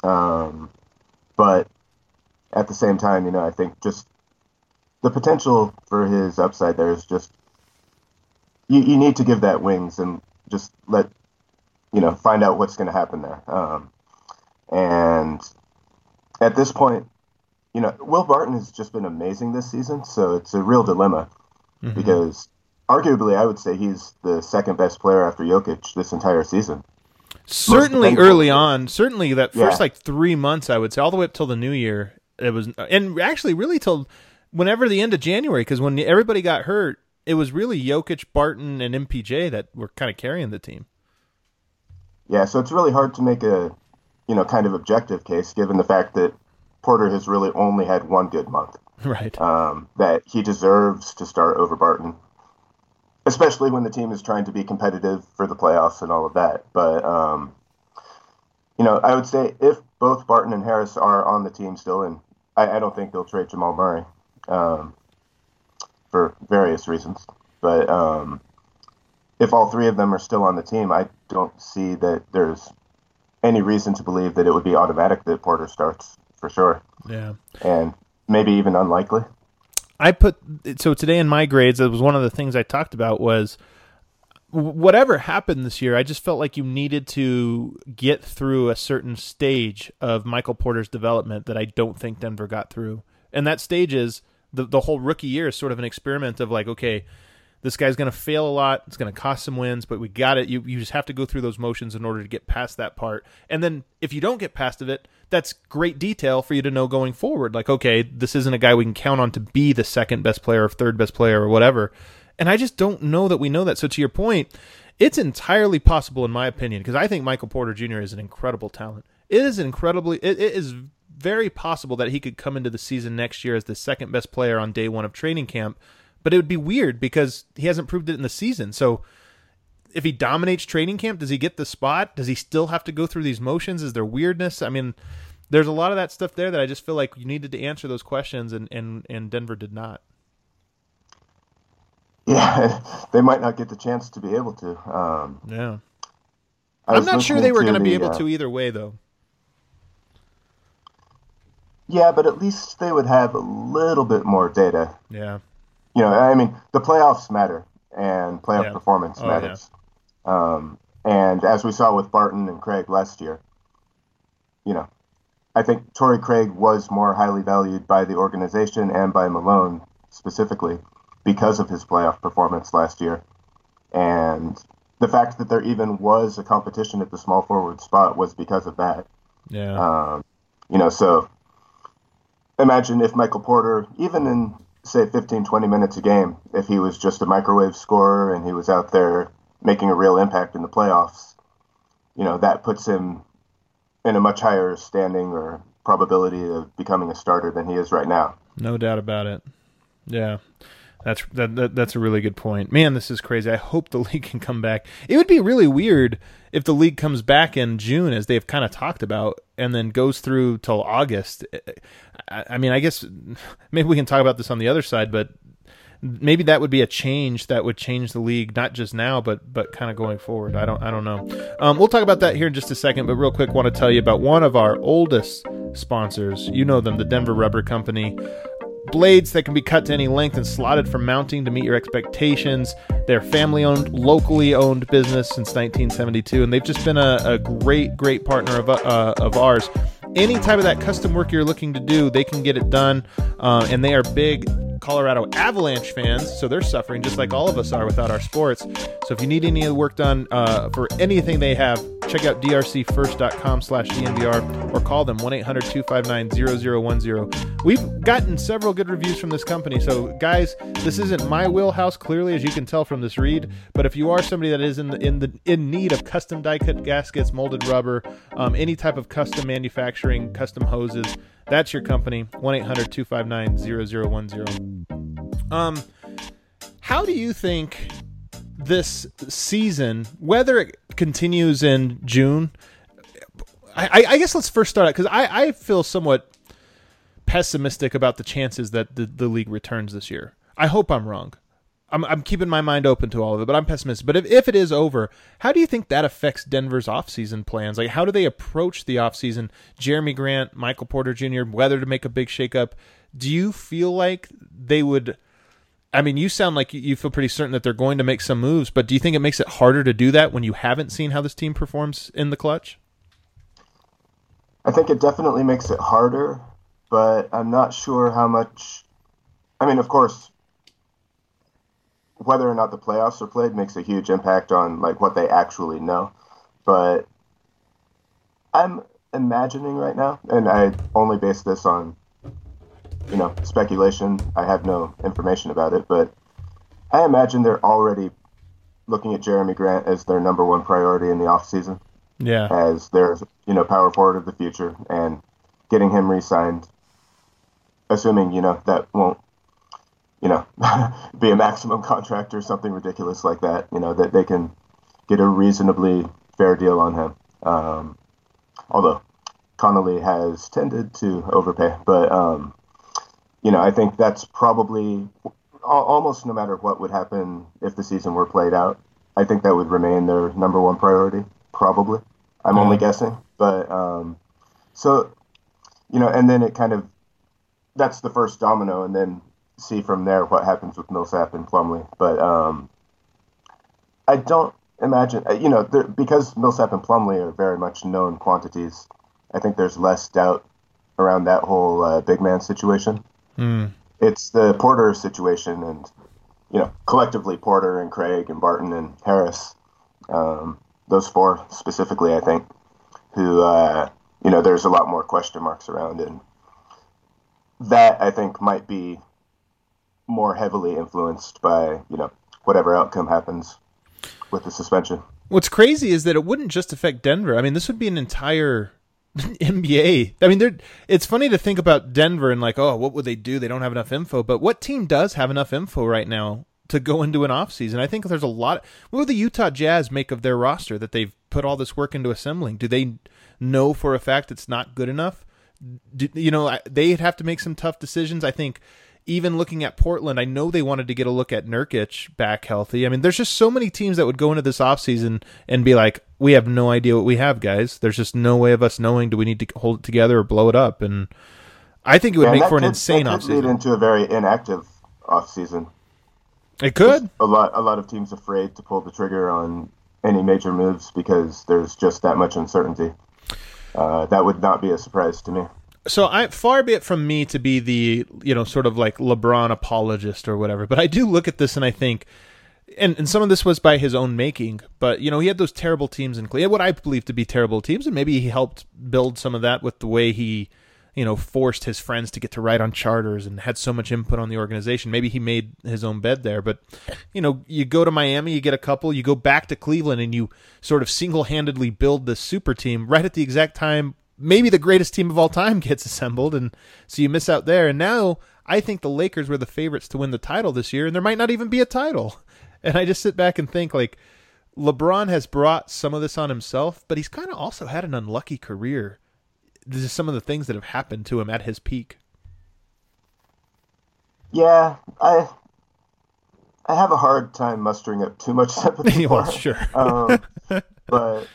B: But at the same time, I think just the potential for his upside there is just you need to give that wings and just let find out what's going to happen there. And at this point, Will Barton has just been amazing this season, so it's a real dilemma because arguably I would say he's the second best player after Jokic this entire season.
A: Certainly early on, certainly that first
B: Yeah.
A: 3 months, I would say, all the way up till the new year, it was, and actually really till whenever the end of January, because when everybody got hurt, it was really Jokic, Barton, and MPJ that were kind of carrying the team.
B: Yeah, so it's really hard to make a kind of objective case given the fact that Porter has really only had one good month.
A: Right.
B: That he deserves to start over Barton, especially when the team is trying to be competitive for the playoffs and all of that. But, I would say if both Barton and Harris are on the team still, and I don't think they'll trade Jamal Murray for various reasons. But if all three of them are still on the team, I don't see that there's any reason to believe that it would be automatic that Porter starts for sure.
A: Yeah.
B: And maybe even unlikely.
A: So today in my grades, it was one of the things I talked about was whatever happened this year, I just felt like you needed to get through a certain stage of Michael Porter's development that I don't think Denver got through. And that stage is the whole rookie year is sort of an experiment of like, okay, this guy's going to fail a lot. It's going to cost some wins, but we got it. You just have to go through those motions in order to get past that part. And then if you don't get past of it, that's great detail for you to know going forward. Like, okay, this isn't a guy we can count on to be the second best player or third best player or whatever. And I just don't know that we know that. So to your point, it's entirely possible, in my opinion, because I think Michael Porter Jr. is an incredible talent. It is very possible that he could come into the season next year as the second best player on day one of training camp. But it would be weird because he hasn't proved it in the season. So if he dominates training camp, does he get the spot? Does he still have to go through these motions? Is there weirdness? I mean, there's a lot of that stuff there that I just feel like you needed to answer those questions, and Denver did not.
B: Yeah, they might not get the chance to be able to.
A: Yeah.
B: I
A: I'm
B: was
A: not sure
B: listening
A: they were
B: to
A: going to be
B: the
A: able to either way, though.
B: yeah, but at least they would have a little bit more data.
A: Yeah.
B: I mean, the playoffs matter and playoff
A: Yeah.
B: performance
A: Oh, yeah.
B: matters. And as we saw with Barton and Craig last year, you know, I think Torrey Craig was more highly valued by the organization and by Malone specifically because of his playoff performance last year. And the fact that there even was a competition at the small forward spot was because of that.
A: Yeah.
B: So imagine if Michael Porter, even in, say, 15, 20 minutes a game, if he was just a microwave scorer and he was out there making a real impact in the playoffs, that puts him in a much higher standing or probability of becoming a starter than he is right now.
A: No doubt about it. Yeah. That's a really good point. Man, this is crazy. I hope the league can come back. It would be really weird if the league comes back in June, as they've kind of talked about, and then goes through till August. I mean, I guess maybe we can talk about this on the other side, but maybe that would be a change that would change the league, not just now, but kind of going forward. I don't know. We'll talk about that here in just a second, but real quick, want to tell you about one of our oldest sponsors. You know them, the Denver Rubber Company. Blades that can be cut to any length and slotted for mounting to meet your expectations. They're family-owned, locally owned business since 1972, and they've just been a great partner of ours. Any type of that custom work you're looking to do, they can get it done, and they are big Colorado Avalanche fans, so they're suffering just like all of us are without our sports. So if you need any of the work done for anything they have, check out drcfirst.com/DNVR or call them 1-800-259-0010. We've gotten several good reviews from this company. So guys, this isn't my wheelhouse, clearly, as you can tell from this read, but if you are somebody that is in need of custom die cut gaskets, molded rubber, any type of custom manufacturing, custom hoses, that's your company. 1-800-259-0010. How do you think this season, whether it continues in June, I guess let's first start out, because I feel somewhat pessimistic about the chances that the league returns this year. I hope I'm wrong. I'm keeping my mind open to all of it, but I'm pessimistic. But if it is over, how do you think that affects Denver's offseason plans? Like, how do they approach the offseason? Jeremy Grant, Michael Porter Jr., whether to make a big shakeup. Do you feel like they would... I mean, you sound like you feel pretty certain that they're going to make some moves, but do you think it makes it harder to do that when you haven't seen how this team performs in the clutch?
B: I think it definitely makes it harder, but I'm not sure how much... I mean, of course, whether or not the playoffs are played makes a huge impact on like what they actually know. But I'm imagining right now, and I only base this on, speculation. I have no information about it, but I imagine they're already looking at Jeremy Grant as their number one priority in the offseason.
A: Yeah.
B: As their, power forward of the future, and getting him re-signed, assuming, that won't, be a maximum contract or something ridiculous like that, that they can get a reasonably fair deal on him. Although Connolly has tended to overpay, but, I think that's probably almost no matter what would happen if the season were played out. I think that would remain their number one priority, probably. I'm only guessing, but, and then it kind of, that's the first domino, and then see from there what happens with Millsap and Plumlee. But I don't imagine, because Millsap and Plumlee are very much known quantities, I think there's less doubt around that whole big man situation. It's the Porter situation, and, collectively Porter and Craig and Barton and Harris, those four specifically, I think, who, there's a lot more question marks around. And that, I think, might be more heavily influenced by, whatever outcome happens with the suspension.
A: What's crazy is that it wouldn't just affect Denver. I mean, this would be an entire NBA. I mean, it's funny to think about Denver and like, oh, what would they do? They don't have enough info. But what team does have enough info right now to go into an offseason? I think there's a lot. What would the Utah Jazz make of their roster that they've put all this work into assembling? Do they know for a fact it's not good enough? They'd have to make some tough decisions. I think even looking at Portland, I know they wanted to get a look at Nurkic back healthy. I mean, there's just so many teams that would go into this offseason and be like, we have no idea what we have, guys. There's just no way of us knowing, do we need to hold it together or blow it up? And I think it would make for an insane offseason. It could lead
B: into a very inactive offseason.
A: It could.
B: A lot of teams afraid to pull the trigger on any major moves because there's just that much uncertainty. That would not be a surprise to me.
A: So far be it from me to be the, sort of like LeBron apologist or whatever, but I do look at this and I think, and some of this was by his own making, but, he had those terrible teams in Cleveland, what I believe to be terrible teams, and maybe he helped build some of that with the way he, forced his friends to get to ride on charters and had so much input on the organization. Maybe he made his own bed there, but, you go to Miami, you get a couple, you go back to Cleveland, and you sort of single-handedly build this super team right at the exact time maybe the greatest team of all time gets assembled, and so you miss out there. And now I think the Lakers were the favorites to win the title this year, and there might not even be a title. And I just sit back and think, like, LeBron has brought some of this on himself, but he's kind of also had an unlucky career. This is some of the things that have happened to him at his peak.
B: Yeah, I have a hard time mustering up too much sympathy for him.
A: Sure.
B: But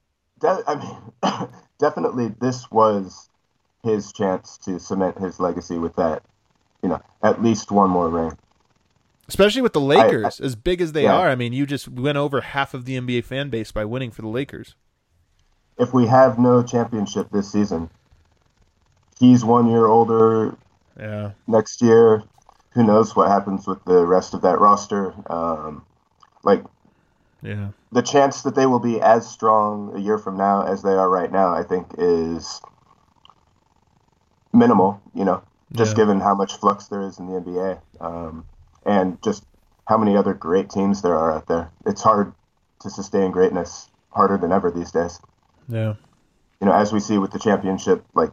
B: definitely this was his chance to cement his legacy with that, at least one more ring.
A: Especially with the Lakers, as big as they are. I mean, you just went over half of the NBA fan base by winning for the Lakers.
B: If we have no championship this season, he's 1 year older.
A: Yeah.
B: Next year, who knows what happens with the rest of that roster? The chance that they will be as strong a year from now as they are right now, I think, is minimal, just given how much flux there is in the NBA, and just how many other great teams there are out there. It's hard to sustain greatness, harder than ever these days.
A: Yeah.
B: As we see with the championship, like,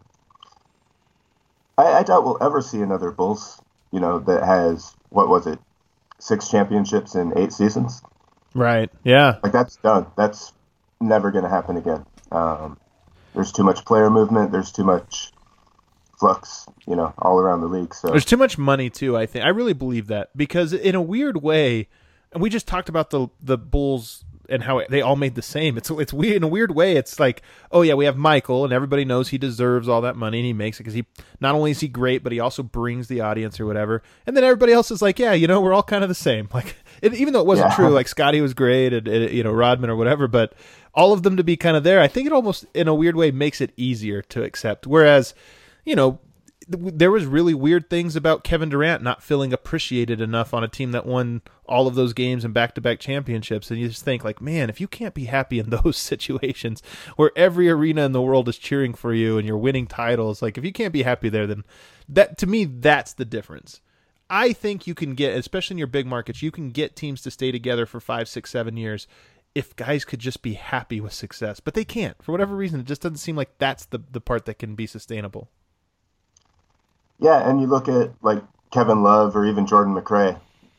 B: I doubt we'll ever see another Bulls, that has, 6 championships in 8 seasons?
A: Right, yeah.
B: Like, that's done. That's never going to happen again. There's too much player movement. There's too much flux, all around the league. So
A: there's too much money, too, I think. I really believe that. Because in a weird way, and we just talked about the Bulls and how they all made the same. It's weird. In a weird way, it's like, oh, yeah, we have Michael, and everybody knows he deserves all that money, and he makes it because he not only is he great, but he also brings the audience or whatever. And then everybody else is like, yeah, we're all kind of the same. Like, even though it wasn't true, like Scotty was great, and Rodman or whatever, but all of them to be kind of there, I think it almost, in a weird way, makes it easier to accept. Whereas, there was really weird things about Kevin Durant not feeling appreciated enough on a team that won all of those games and back-to-back championships. And you just think, like, man, if you can't be happy in those situations where every arena in the world is cheering for you and you're winning titles, like, if you can't be happy there, then that, to me, that's the difference. I think you can get, especially in your big markets, you can get teams to stay together for 5, 6, 7 years if guys could just be happy with success. But they can't. For whatever reason, it just doesn't seem like that's the part that can be sustainable.
B: Yeah, and you look at, like, Kevin Love or even Jordan McRae.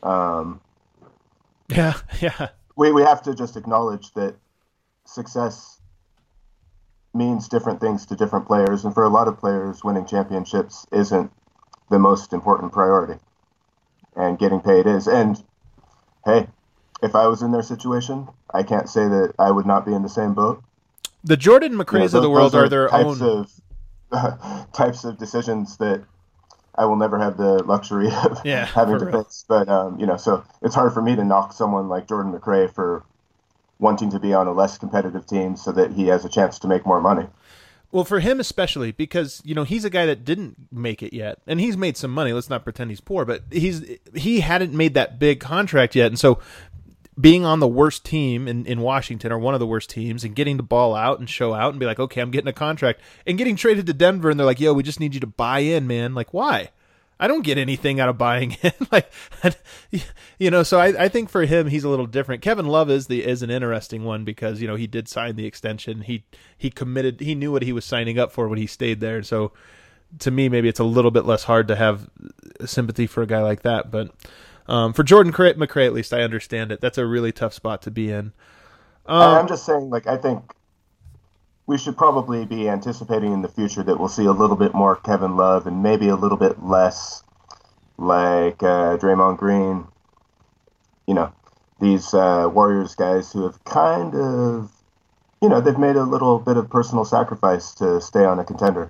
A: Yeah.
B: We have to just acknowledge that success means different things to different players, and for a lot of players, winning championships isn't the most important priority, and getting paid is. And, hey, if I was in their situation, I can't say that I would not be in the same boat.
A: The Jordan McRaes of the world are their own
B: types of decisions that I will never have the luxury of having to face. But, so it's hard for me to knock someone like Jordan McRae for wanting to be on a less competitive team so that he has a chance to make more money.
A: Well, for him especially, because, he's a guy that didn't make it yet. And he's made some money. Let's not pretend he's poor. But he hadn't made that big contract yet. And so being on the worst team in Washington, or one of the worst teams, and getting the ball out and show out and be like, okay, I'm getting a contract, and getting traded to Denver, and they're like, yo, we just need you to buy in, man. Like, why? I don't get anything out of buying in. So I think for him, he's a little different. Kevin Love is an interesting one because, he did sign the extension. He committed, he knew what he was signing up for when he stayed there. So to me, maybe it's a little bit less hard to have sympathy for a guy like that. But for Jordan McRae, at least, I understand it. That's a really tough spot to be in.
B: I'm just saying, like, I think we should probably be anticipating in the future that we'll see a little bit more Kevin Love and maybe a little bit less like Draymond Green, you know, these Warriors guys who have kind of, they've made a little bit of personal sacrifice to stay on a contender.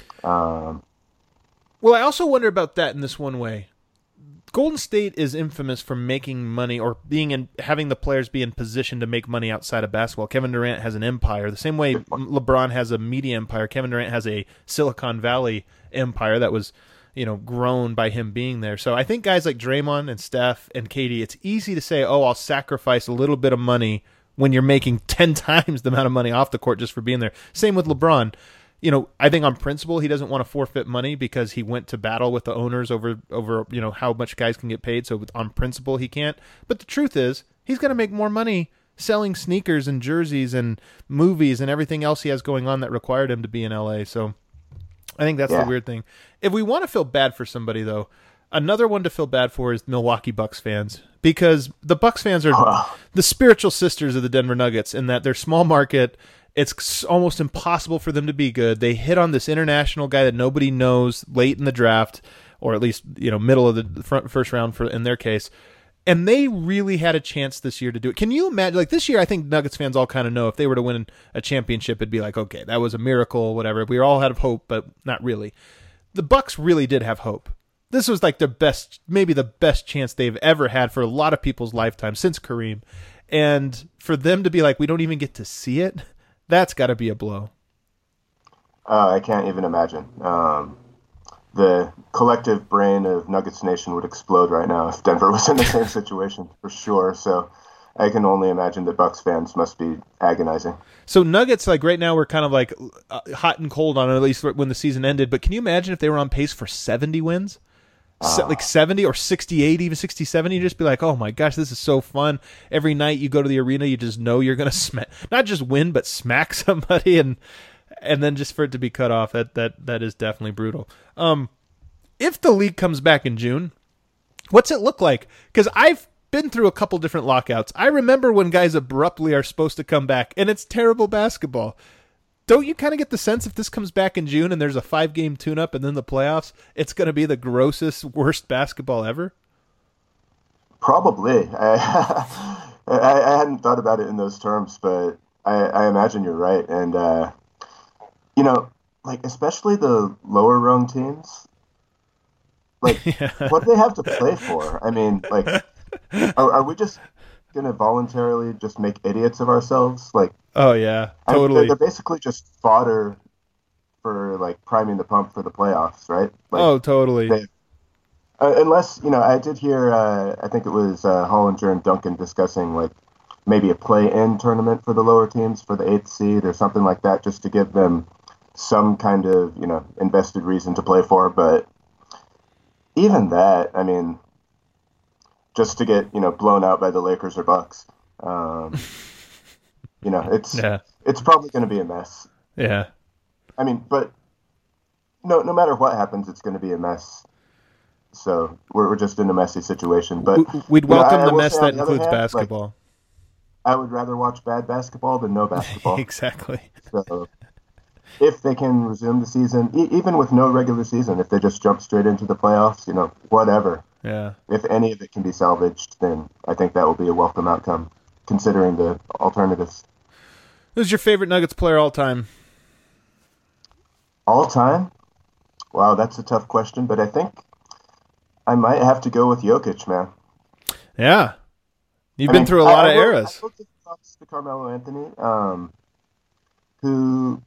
A: Well, I also wonder about that in this one way. Golden State is infamous for making money or having the players be in position to make money outside of basketball. Kevin Durant has an empire. The same way LeBron has a media empire, Kevin Durant has a Silicon Valley empire that was, grown by him being there. So I think guys like Draymond and Steph and KD, it's easy to say, oh, I'll sacrifice a little bit of money when you're making 10 times the amount of money off the court just for being there. Same with LeBron. I think on principle he doesn't want to forfeit money because he went to battle with the owners over how much guys can get paid. So on principle he can't. But the truth is he's going to make more money selling sneakers and jerseys and movies and everything else he has going on that required him to be in LA. So I think that's the weird thing. If we want to feel bad for somebody though, another one to feel bad for is Milwaukee Bucks fans, because the Bucks fans are the spiritual sisters of the Denver Nuggets in that they're small market. It's almost impossible for them to be good. They hit on this international guy that nobody knows late in the draft, or at least middle of the first round in their case, and they really had a chance this year to do it. Can you imagine? Like this year, I think Nuggets fans all kind of know if they were to win a championship, it'd be like, okay, that was a miracle, whatever. We all had hope, but not really. The Bucks really did have hope. This was like maybe the best chance they've ever had for a lot of people's lifetime since Kareem, and for them to be like, we don't even get to see it. That's got to be a blow.
B: I can't even imagine. The collective brain of Nuggets Nation would explode right now if Denver was in the same situation, for sure. So I can only imagine that Bucks fans must be agonizing.
A: So Nuggets, like right now, we're kind of like hot and cold on it, at least when the season ended. But can you imagine if they were on pace for 70 wins? Like 70 or 68, even 67, you just be like, oh my gosh, this is so fun. Every night you go to the arena, you just know you're going to not just win, but smack somebody, and then just for it to be cut off, that is definitely brutal. If the league comes back in June, what's it look like? Because I've been through a couple different lockouts. I remember when guys abruptly are supposed to come back, and it's terrible basketball. Don't you kind of get the sense if this comes back in June and there's a 5-game tune-up and then the playoffs, it's going to be the grossest, worst basketball ever?
B: Probably. I hadn't thought about it in those terms, but I imagine you're right. And, like especially the lower rung teams, like what do they have to play for? I mean, like, are we just going to voluntarily just make idiots of ourselves? Like,
A: oh yeah, totally.
B: They're basically just fodder for like priming the pump for the playoffs, right? Like,
A: oh, totally.
B: Unless I did hear. I think it was Hollinger and Duncan discussing like maybe a play-in tournament for the lower teams for the 8th seed or something like that, just to give them some kind of invested reason to play for. But even that, I mean, just to get blown out by the Lakers or Bucks. It's probably going to be a mess.
A: Yeah.
B: I mean, but no matter what happens, it's going to be a mess. So we're just in a messy situation. But
A: we'd welcome the mess that includes basketball.
B: Like, I would rather watch bad basketball than no basketball.
A: Exactly.
B: So if they can resume the season, even with no regular season, if they just jump straight into the playoffs, whatever.
A: Yeah.
B: If any of it can be salvaged, then I think that will be a welcome outcome, considering the alternatives.
A: Who's your favorite Nuggets player all time?
B: All time? Wow, that's a tough question, but I think I might have to go with Jokic, man.
A: Yeah. You've been through a lot of eras.
B: I will give props to Carmelo Anthony, who,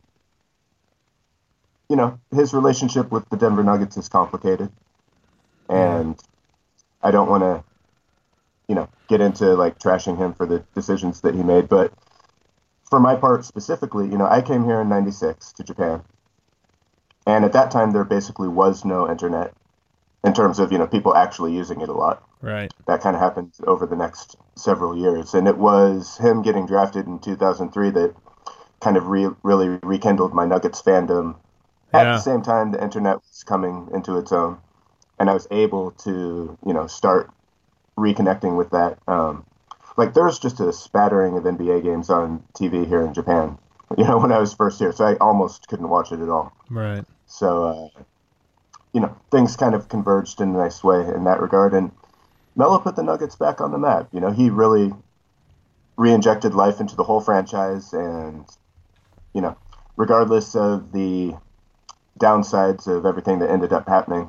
B: his relationship with the Denver Nuggets is complicated. And I don't want to, get into like trashing him for the decisions that he made. But for my part specifically, I came here in '96 to Japan. And at that time, there basically was no internet in terms of, people actually using it a lot.
A: Right. That
B: kind of happened over the next several years. And it was him getting drafted in 2003 that kind of really rekindled my Nuggets fandom. At the same time, the internet was coming into its own. And I was able to, start reconnecting with that. Like, there was just a spattering of NBA games on TV here in Japan, when I was first here. So I almost couldn't watch it at all.
A: Right.
B: So, things kind of converged in a nice way in that regard. And Melo put the Nuggets back on the map. He really re-injected life into the whole franchise, and regardless of the downsides of everything that ended up happening,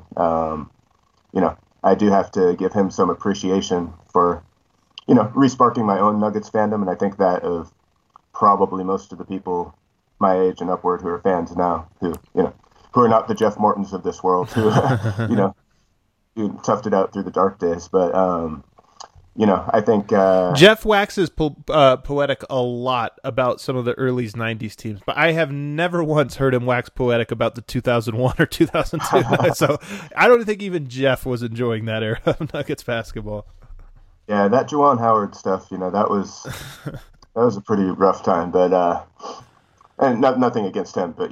B: I do have to give him some appreciation for resparking my own Nuggets fandom, and I think that of probably most of the people my age and upward who are fans now, who are not the Jeff Mortons of this world, who who toughed it out through the dark days. But I think
A: Jeff waxes poetic a lot about some of the early '90s teams, but I have never once heard him wax poetic about the 2001 or 2002. So I don't think even Jeff was enjoying that era of Nuggets basketball.
B: Yeah, that Juwan Howard stuff, that was a pretty rough time. But and nothing against him, but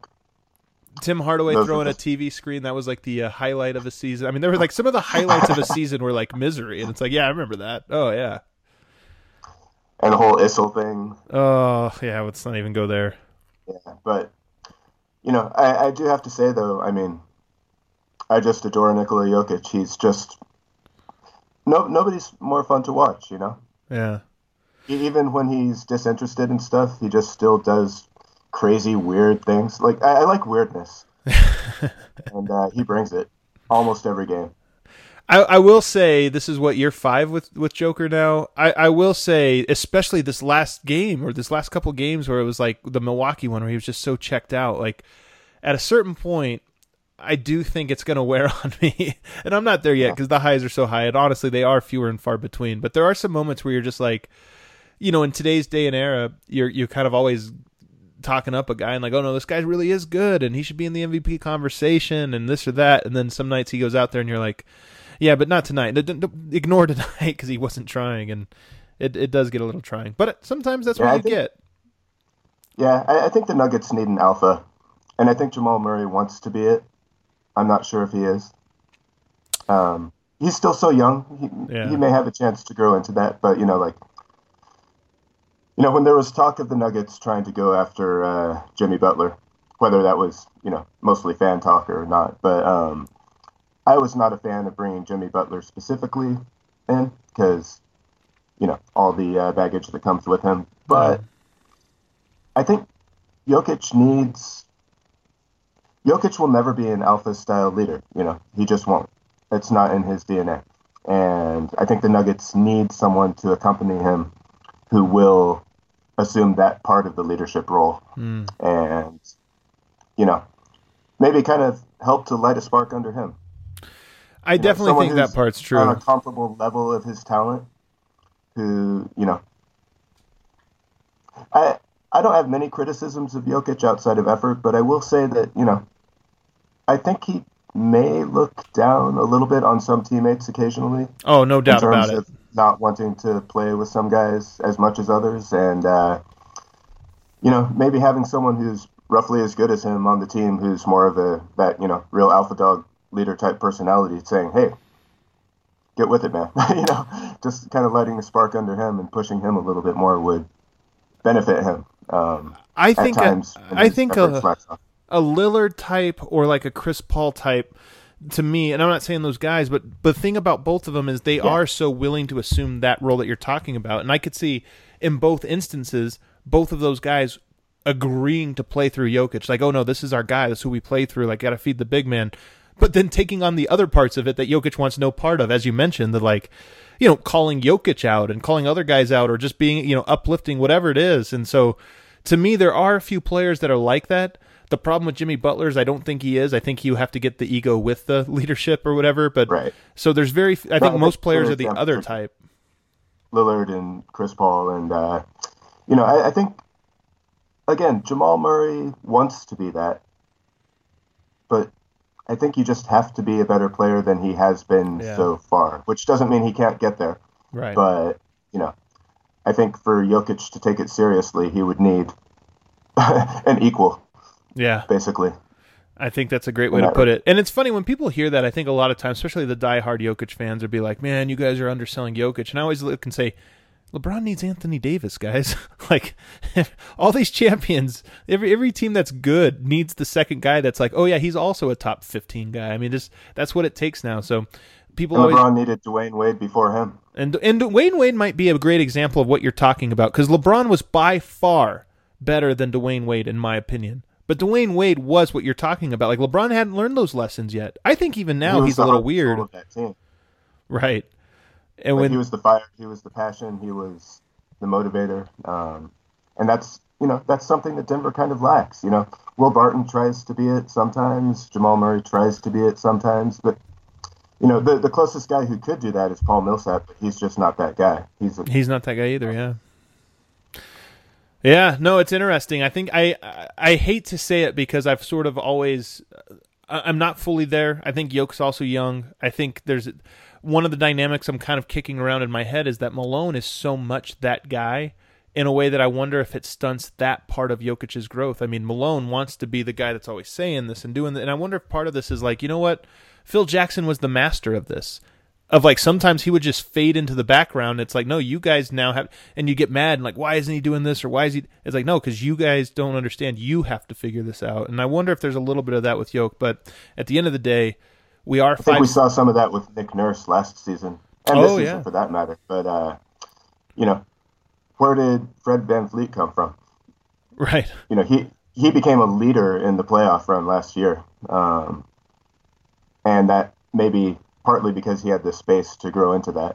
A: Tim Hardaway throwing a TV screen, that was like the highlight of a season. I mean, there were like some of the highlights of a season were like misery, and it's like, yeah, I remember that. Oh, yeah.
B: And the whole Issel thing.
A: Oh, yeah, let's not even go there.
B: Yeah, but, I do have to say, though, I mean, I just adore Nikola Jokic. He's just, nobody's more fun to watch,
A: Yeah.
B: Even when he's disinterested in stuff, he just still does crazy, weird things. Like, I like weirdness. And he brings it almost every game.
A: I will say, this is what, year 5 with Joker now? I will say, especially this last game, or this last couple games where it was like the Milwaukee one where he was just so checked out, like, at a certain point, I do think it's going to wear on me. And I'm not there yet because the highs are so high, and honestly, they are fewer and far between. But there are some moments where you're just like, in today's day and era, you're kind of always talking up a guy and like, oh no, this guy really is good and he should be in the MVP conversation and this or that. And then some nights he goes out there and you're like, yeah, but not tonight. Ignore tonight because he wasn't trying, and it does get a little trying. But sometimes that's what you get.
B: Yeah, I think the Nuggets need an alpha, and I think Jamal Murray wants to be it. I'm not sure if he is. He's still so young. He may have a chance to grow into that, but when there was talk of the Nuggets trying to go after Jimmy Butler, whether that was, mostly fan talk or not, but I was not a fan of bringing Jimmy Butler specifically in because, all the baggage that comes with him. But I think Jokic will never be an alpha-style leader. He just won't. It's not in his DNA. And I think the Nuggets need someone to accompany him who will assume that part of the leadership role and, maybe kind of help to light a spark under him.
A: I definitely think that part's true.
B: On a comparable level of his talent, who, I don't have many criticisms of Jokic outside of effort, but I will say that, I think he may look down a little bit on some teammates occasionally.
A: Oh, no doubt about it.
B: Not wanting to play with some guys as much as others, and maybe having someone who's roughly as good as him on the team, who's more of that real alpha dog leader type personality, saying, "Hey, get with it, man." Just kind of lighting the spark under him and pushing him a little bit more would benefit him.
A: I think a Lillard type or like a Chris Paul type, to me, and I'm not saying those guys, but the thing about both of them is they are so willing to assume that role that you're talking about. And I could see in both instances, both of those guys agreeing to play through Jokic. Like, oh no, this is our guy. This is who we play through. Like, got to feed the big man. But then taking on the other parts of it that Jokic wants no part of, as you mentioned, the calling Jokic out and calling other guys out, or just being, uplifting, whatever it is. And so to me, there are a few players that are like that. The problem with Jimmy Butler is I don't think he is. I think you have to get the ego with the leadership or whatever. But so there's I think most players are the other type.
B: Lillard and Chris Paul. And, I think, again, Jamal Murray wants to be that. But I think you just have to be a better player than he has been so far, which doesn't mean he can't get there.
A: Right.
B: But, I think for Jokic to take it seriously, he would need an equal.
A: Yeah.
B: Basically.
A: I think that's a great way to put it. And it's funny when people hear that, I think a lot of times, especially the diehard Jokic fans, would be like, man, you guys are underselling Jokic. And I always look and say, LeBron needs Anthony Davis, guys. Like, all these champions, every team that's good needs the second guy that's like, oh yeah, he's also a top 15 guy. I mean, that's what it takes now. So people
B: And
A: always
B: LeBron needed Dwayne Wade before him.
A: and Dwayne Wade might be a great example of what you're talking about, because LeBron was by far better than Dwayne Wade in my opinion. But Dwayne Wade was what you're talking about. Like, LeBron hadn't learned those lessons yet. I think even now he's a little weird.
B: Of that team.
A: Right. And when
B: he was the fire, he was the passion, he was the motivator, and that's something that Denver kind of lacks. Will Barton tries to be it sometimes, Jamal Murray tries to be it sometimes, but the closest guy who could do that is Paul Millsap, but he's just not that guy.
A: He's not that guy either. Yeah. Yeah. No, it's interesting. I think I hate to say it because I've sort of always I'm not fully there. I think Yoke's also young. I think there's one of the dynamics I'm kind of kicking around in my head is that Malone is so much that guy in a way that I wonder if it stunts that part of Jokic's growth. I mean, Malone wants to be the guy that's always saying this and doing that, and I wonder if part of this is like, you know what? Phil Jackson was the master of this. Of like, sometimes he would just fade into the background. It's like, no, you guys now have, and you get mad and like, why isn't he doing this, or why is he? It's like, no, because you guys don't understand. You have to figure this out. And I wonder if there's a little bit of that with Yoke. But at the end of the day, I think
B: we saw some of that with Nick Nurse last season, and this season for that matter. But where did Fred VanVleet come from?
A: Right.
B: He became a leader in the playoff run last year, and that maybe partly because he had the space to grow into that,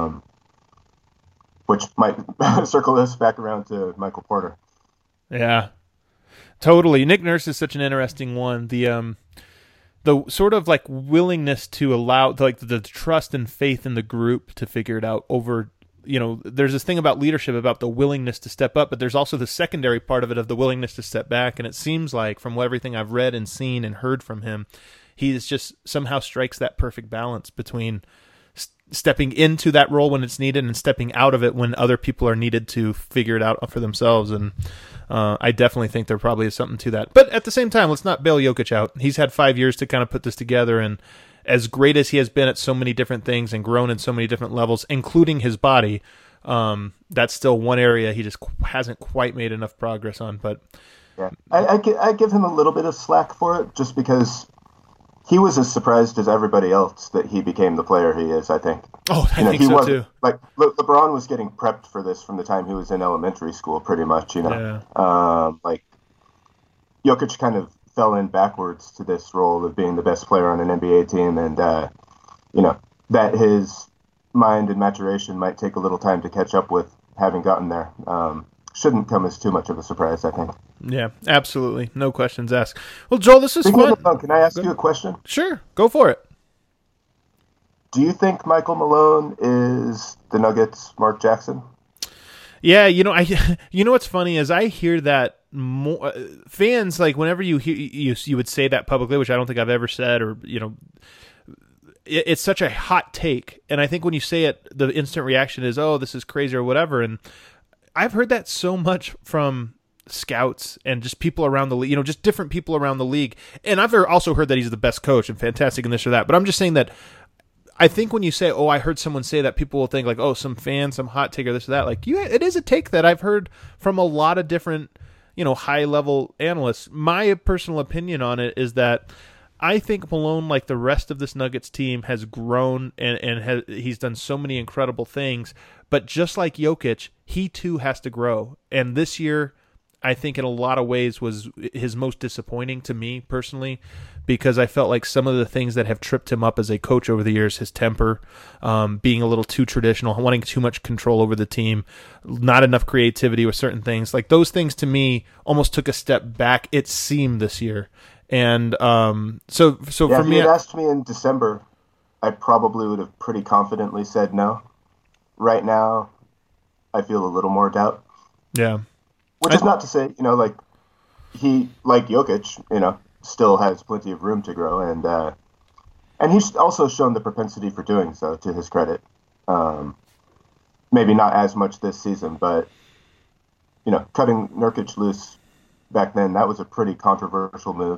B: which might circle us back around to Michael Porter.
A: Yeah, totally. Nick Nurse is such an interesting one. The sort of like willingness to allow like the trust and faith in the group to figure it out over, there's this thing about leadership, about the willingness to step up, but there's also the secondary part of it of the willingness to step back. And it seems like from everything I've read and seen and heard from him, he is just somehow strikes that perfect balance between stepping into that role when it's needed and stepping out of it when other people are needed to figure it out for themselves. And I definitely think there probably is something to that. But at the same time, let's not bail Jokic out. He's had 5 years to kind of put this together, and as great as he has been at so many different things and grown in so many different levels, including his body, that's still one area he just hasn't quite made enough progress on. But
B: yeah, I give him a little bit of slack for it, just because he was as surprised as everybody else that he became the player he is, I think.
A: Oh, I think so too.
B: Like, LeBron was getting prepped for this from the time he was in elementary school, pretty much,
A: Yeah.
B: Like, Jokic kind of fell in backwards to this role of being the best player on an NBA team, and, that his mind and maturation might take a little time to catch up with having gotten there. Shouldn't come as too much of a surprise, I think.
A: Yeah, absolutely. No questions asked. Well, Joel, this is fun.
B: Can I ask you a question?
A: Sure. Go for it.
B: Do you think Michael Malone is the Nuggets' Mark Jackson?
A: Yeah, what's funny is I hear that more fans, like, whenever you hear you would say that publicly, which I don't think I've ever said, or it's such a hot take, and I think when you say it, the instant reaction is, "Oh, this is crazy" or whatever. And I've heard that so much from scouts and just people around the league, just different people around the league. And I've also heard that he's the best coach and fantastic and this or that. But I'm just saying that I think when you say, "Oh, I heard someone say that," people will think like, "Oh, some fan, some hot take or this or that." Like, it is a take that I've heard from a lot of different, high level analysts. My personal opinion on it is that I think Malone, like the rest of this Nuggets team, has grown and he's done so many incredible things. But just like Jokic, he too has to grow. And this year, I think in a lot of ways was his most disappointing to me personally, because I felt like some of the things that have tripped him up as a coach over the years, his temper, being a little too traditional, wanting too much control over the team, not enough creativity with certain things, like those things to me almost took a step back, it seemed, this year. And so for me,
B: if you had asked me in December, I probably would have pretty confidently said no. Right now, I feel a little more doubt.
A: Yeah.
B: Which is not to say, like Jokic, still has plenty of room to grow, and he's also shown the propensity for doing so, to his credit. Maybe not as much this season, but cutting Nurkic loose back then, that was a pretty controversial move.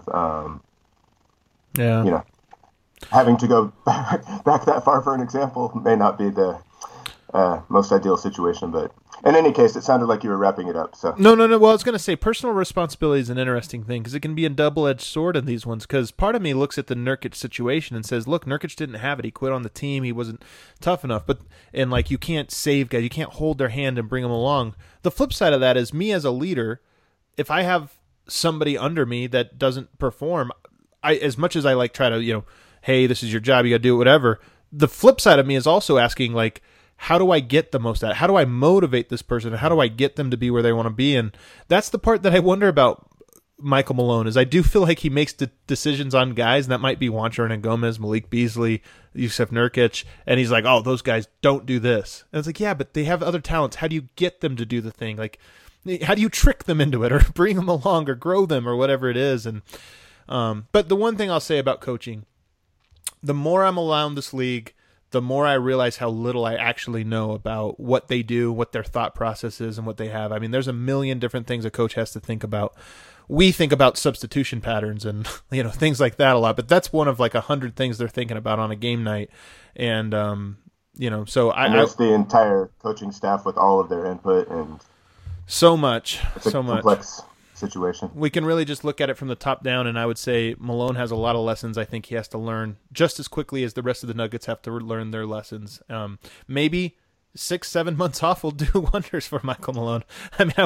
A: Yeah.
B: Having to go back that far for an example may not be the most ideal situation, but in any case, it sounded like you were wrapping it up. So
A: No. Well, I was going to say personal responsibility is an interesting thing because it can be a double-edged sword in these ones. Because part of me looks at the Nurkic situation and says, "Look, Nurkic didn't have it. He quit on the team. He wasn't tough enough." And like you can't save guys, you can't hold their hand and bring them along. The flip side of that is me as a leader. If I have somebody under me that doesn't perform, as much as I like try to hey, this is your job, you got to do it, whatever. The flip side of me is also asking like, how do I get the most out of it? How do I motivate this person? How do I get them to be where they want to be? And that's the part that I wonder about Michael Malone is I do feel like he makes decisions on guys, and that might be Juancho Hernangomez, Malik Beasley, Jusuf Nurkic, and he's like, oh, those guys don't do this. And it's like, yeah, but they have other talents. How do you get them to do the thing? Like, how do you trick them into it or bring them along or grow them or whatever it is? And but the one thing I'll say about coaching, the more I'm around this league, the more I realize how little I actually know about what they do, what their thought process is, and what they have. I mean, there's a million different things a coach has to think about. We think about substitution patterns and things like that a lot, but that's one of like 100 things they're thinking about on a game night. And so
B: there's the entire coaching staff with all of their input and
A: so much,
B: it's a complex situation.
A: We can really just look at it from the top down, and I would say Malone has a lot of lessons I think he has to learn just as quickly as the rest of the Nuggets have to learn their lessons. Maybe 6-7 months off will do wonders for Michael Malone. I mean,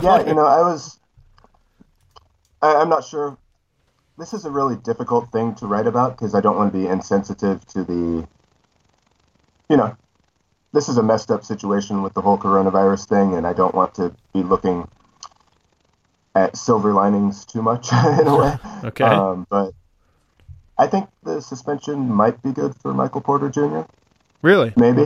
B: I'm not sure. This is a really difficult thing to write about because I don't want to be insensitive to the, this is a messed up situation with the whole coronavirus thing, and I don't want to be looking at silver linings too much in a way.
A: Okay.
B: But I think the suspension might be good for Michael Porter Jr.
A: Really?
B: Maybe.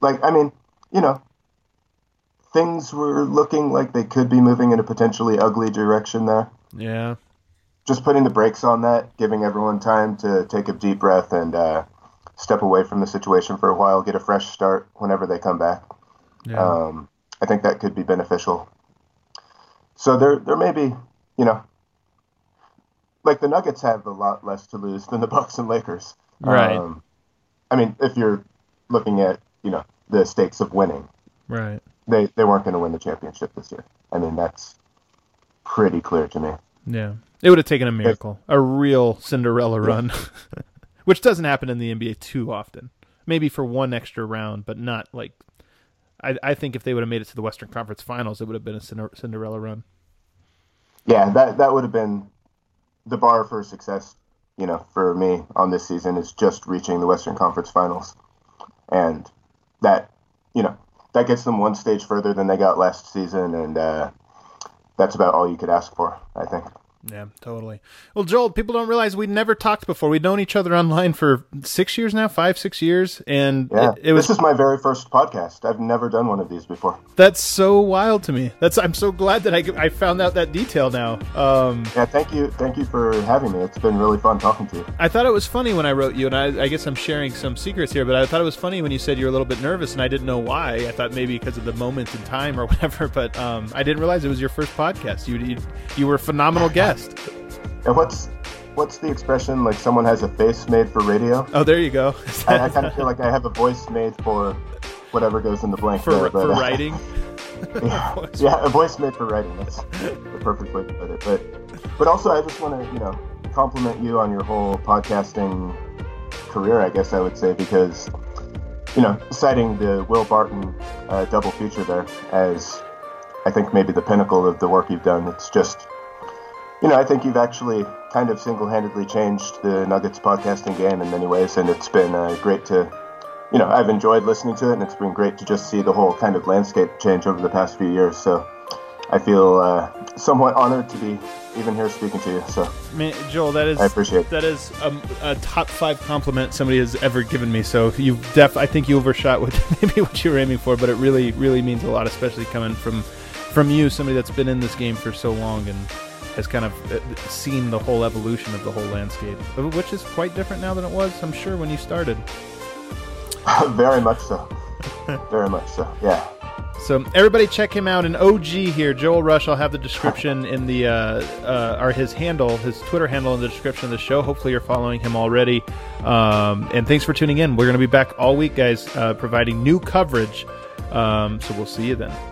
B: Things were looking like they could be moving in a potentially ugly direction there.
A: Yeah.
B: Just putting the brakes on that, giving everyone time to take a deep breath and step away from the situation for a while, get a fresh start whenever they come back.
A: Yeah.
B: I think that could be beneficial. So there may be, like the Nuggets have a lot less to lose than the Bucks and Lakers.
A: Right.
B: If you're looking at, the stakes of winning.
A: Right.
B: They weren't going to win the championship this year. I mean, that's pretty clear to me.
A: Yeah. It would have taken a miracle, a real Cinderella run, which doesn't happen in the NBA too often. Maybe for one extra round, but not like I think if they would have made it to the Western Conference Finals, it would have been a Cinderella run.
B: Yeah, that would have been the bar for success, for me on this season is just reaching the Western Conference Finals. And that, that gets them one stage further than they got last season, and that's about all you could ask for, I think.
A: Yeah, totally. Well, Joel, people don't realize we'd never talked before. We'd known each other online for 6 years now, 5-6 years. And
B: yeah,
A: it was.
B: This is my very first podcast. I've never done one of these before.
A: That's so wild to me. I'm so glad that I found out that detail now.
B: Yeah, thank you for having me. It's been really fun talking to you.
A: I thought it was funny when I wrote you, and I guess I'm sharing some secrets here, but I thought it was funny when you said you were a little bit nervous, and I didn't know why. I thought maybe because of the moment in time or whatever, but I didn't realize it was your first podcast. You were a phenomenal guest.
B: And what's the expression, like someone has a face made for radio?
A: Oh, there you go.
B: I kind of feel like I have a voice made for whatever goes in the blank
A: for writing.
B: yeah, a voice made for writing. That's the perfect way to put it. But also, I just want to compliment you on your whole podcasting career, I guess I would say, because citing the Will Barton double feature there as I think maybe the pinnacle of the work you've done. It's just. I think you've actually kind of single-handedly changed the Nuggets podcasting game in many ways, and it's been great to, I've enjoyed listening to it, and it's been great to just see the whole kind of landscape change over the past few years. So I feel somewhat honored to be even here speaking to you. So,
A: Joel, I appreciate it. That is a top 5 compliment somebody has ever given me. So I think you overshot with maybe what you were aiming for, but it really, really means a lot, especially coming from you, somebody that's been in this game for so long and has kind of seen the whole evolution of the whole landscape, which is quite different now than it was, I'm sure, when you started.
B: Very much so. Very much so, yeah.
A: So everybody check him out. An OG here, Joel Rush. I'll have the description in the or his Twitter handle in the description of the show. Hopefully you're following him already. And thanks for tuning in. We're going to be back all week, guys, providing new coverage So we'll see you then.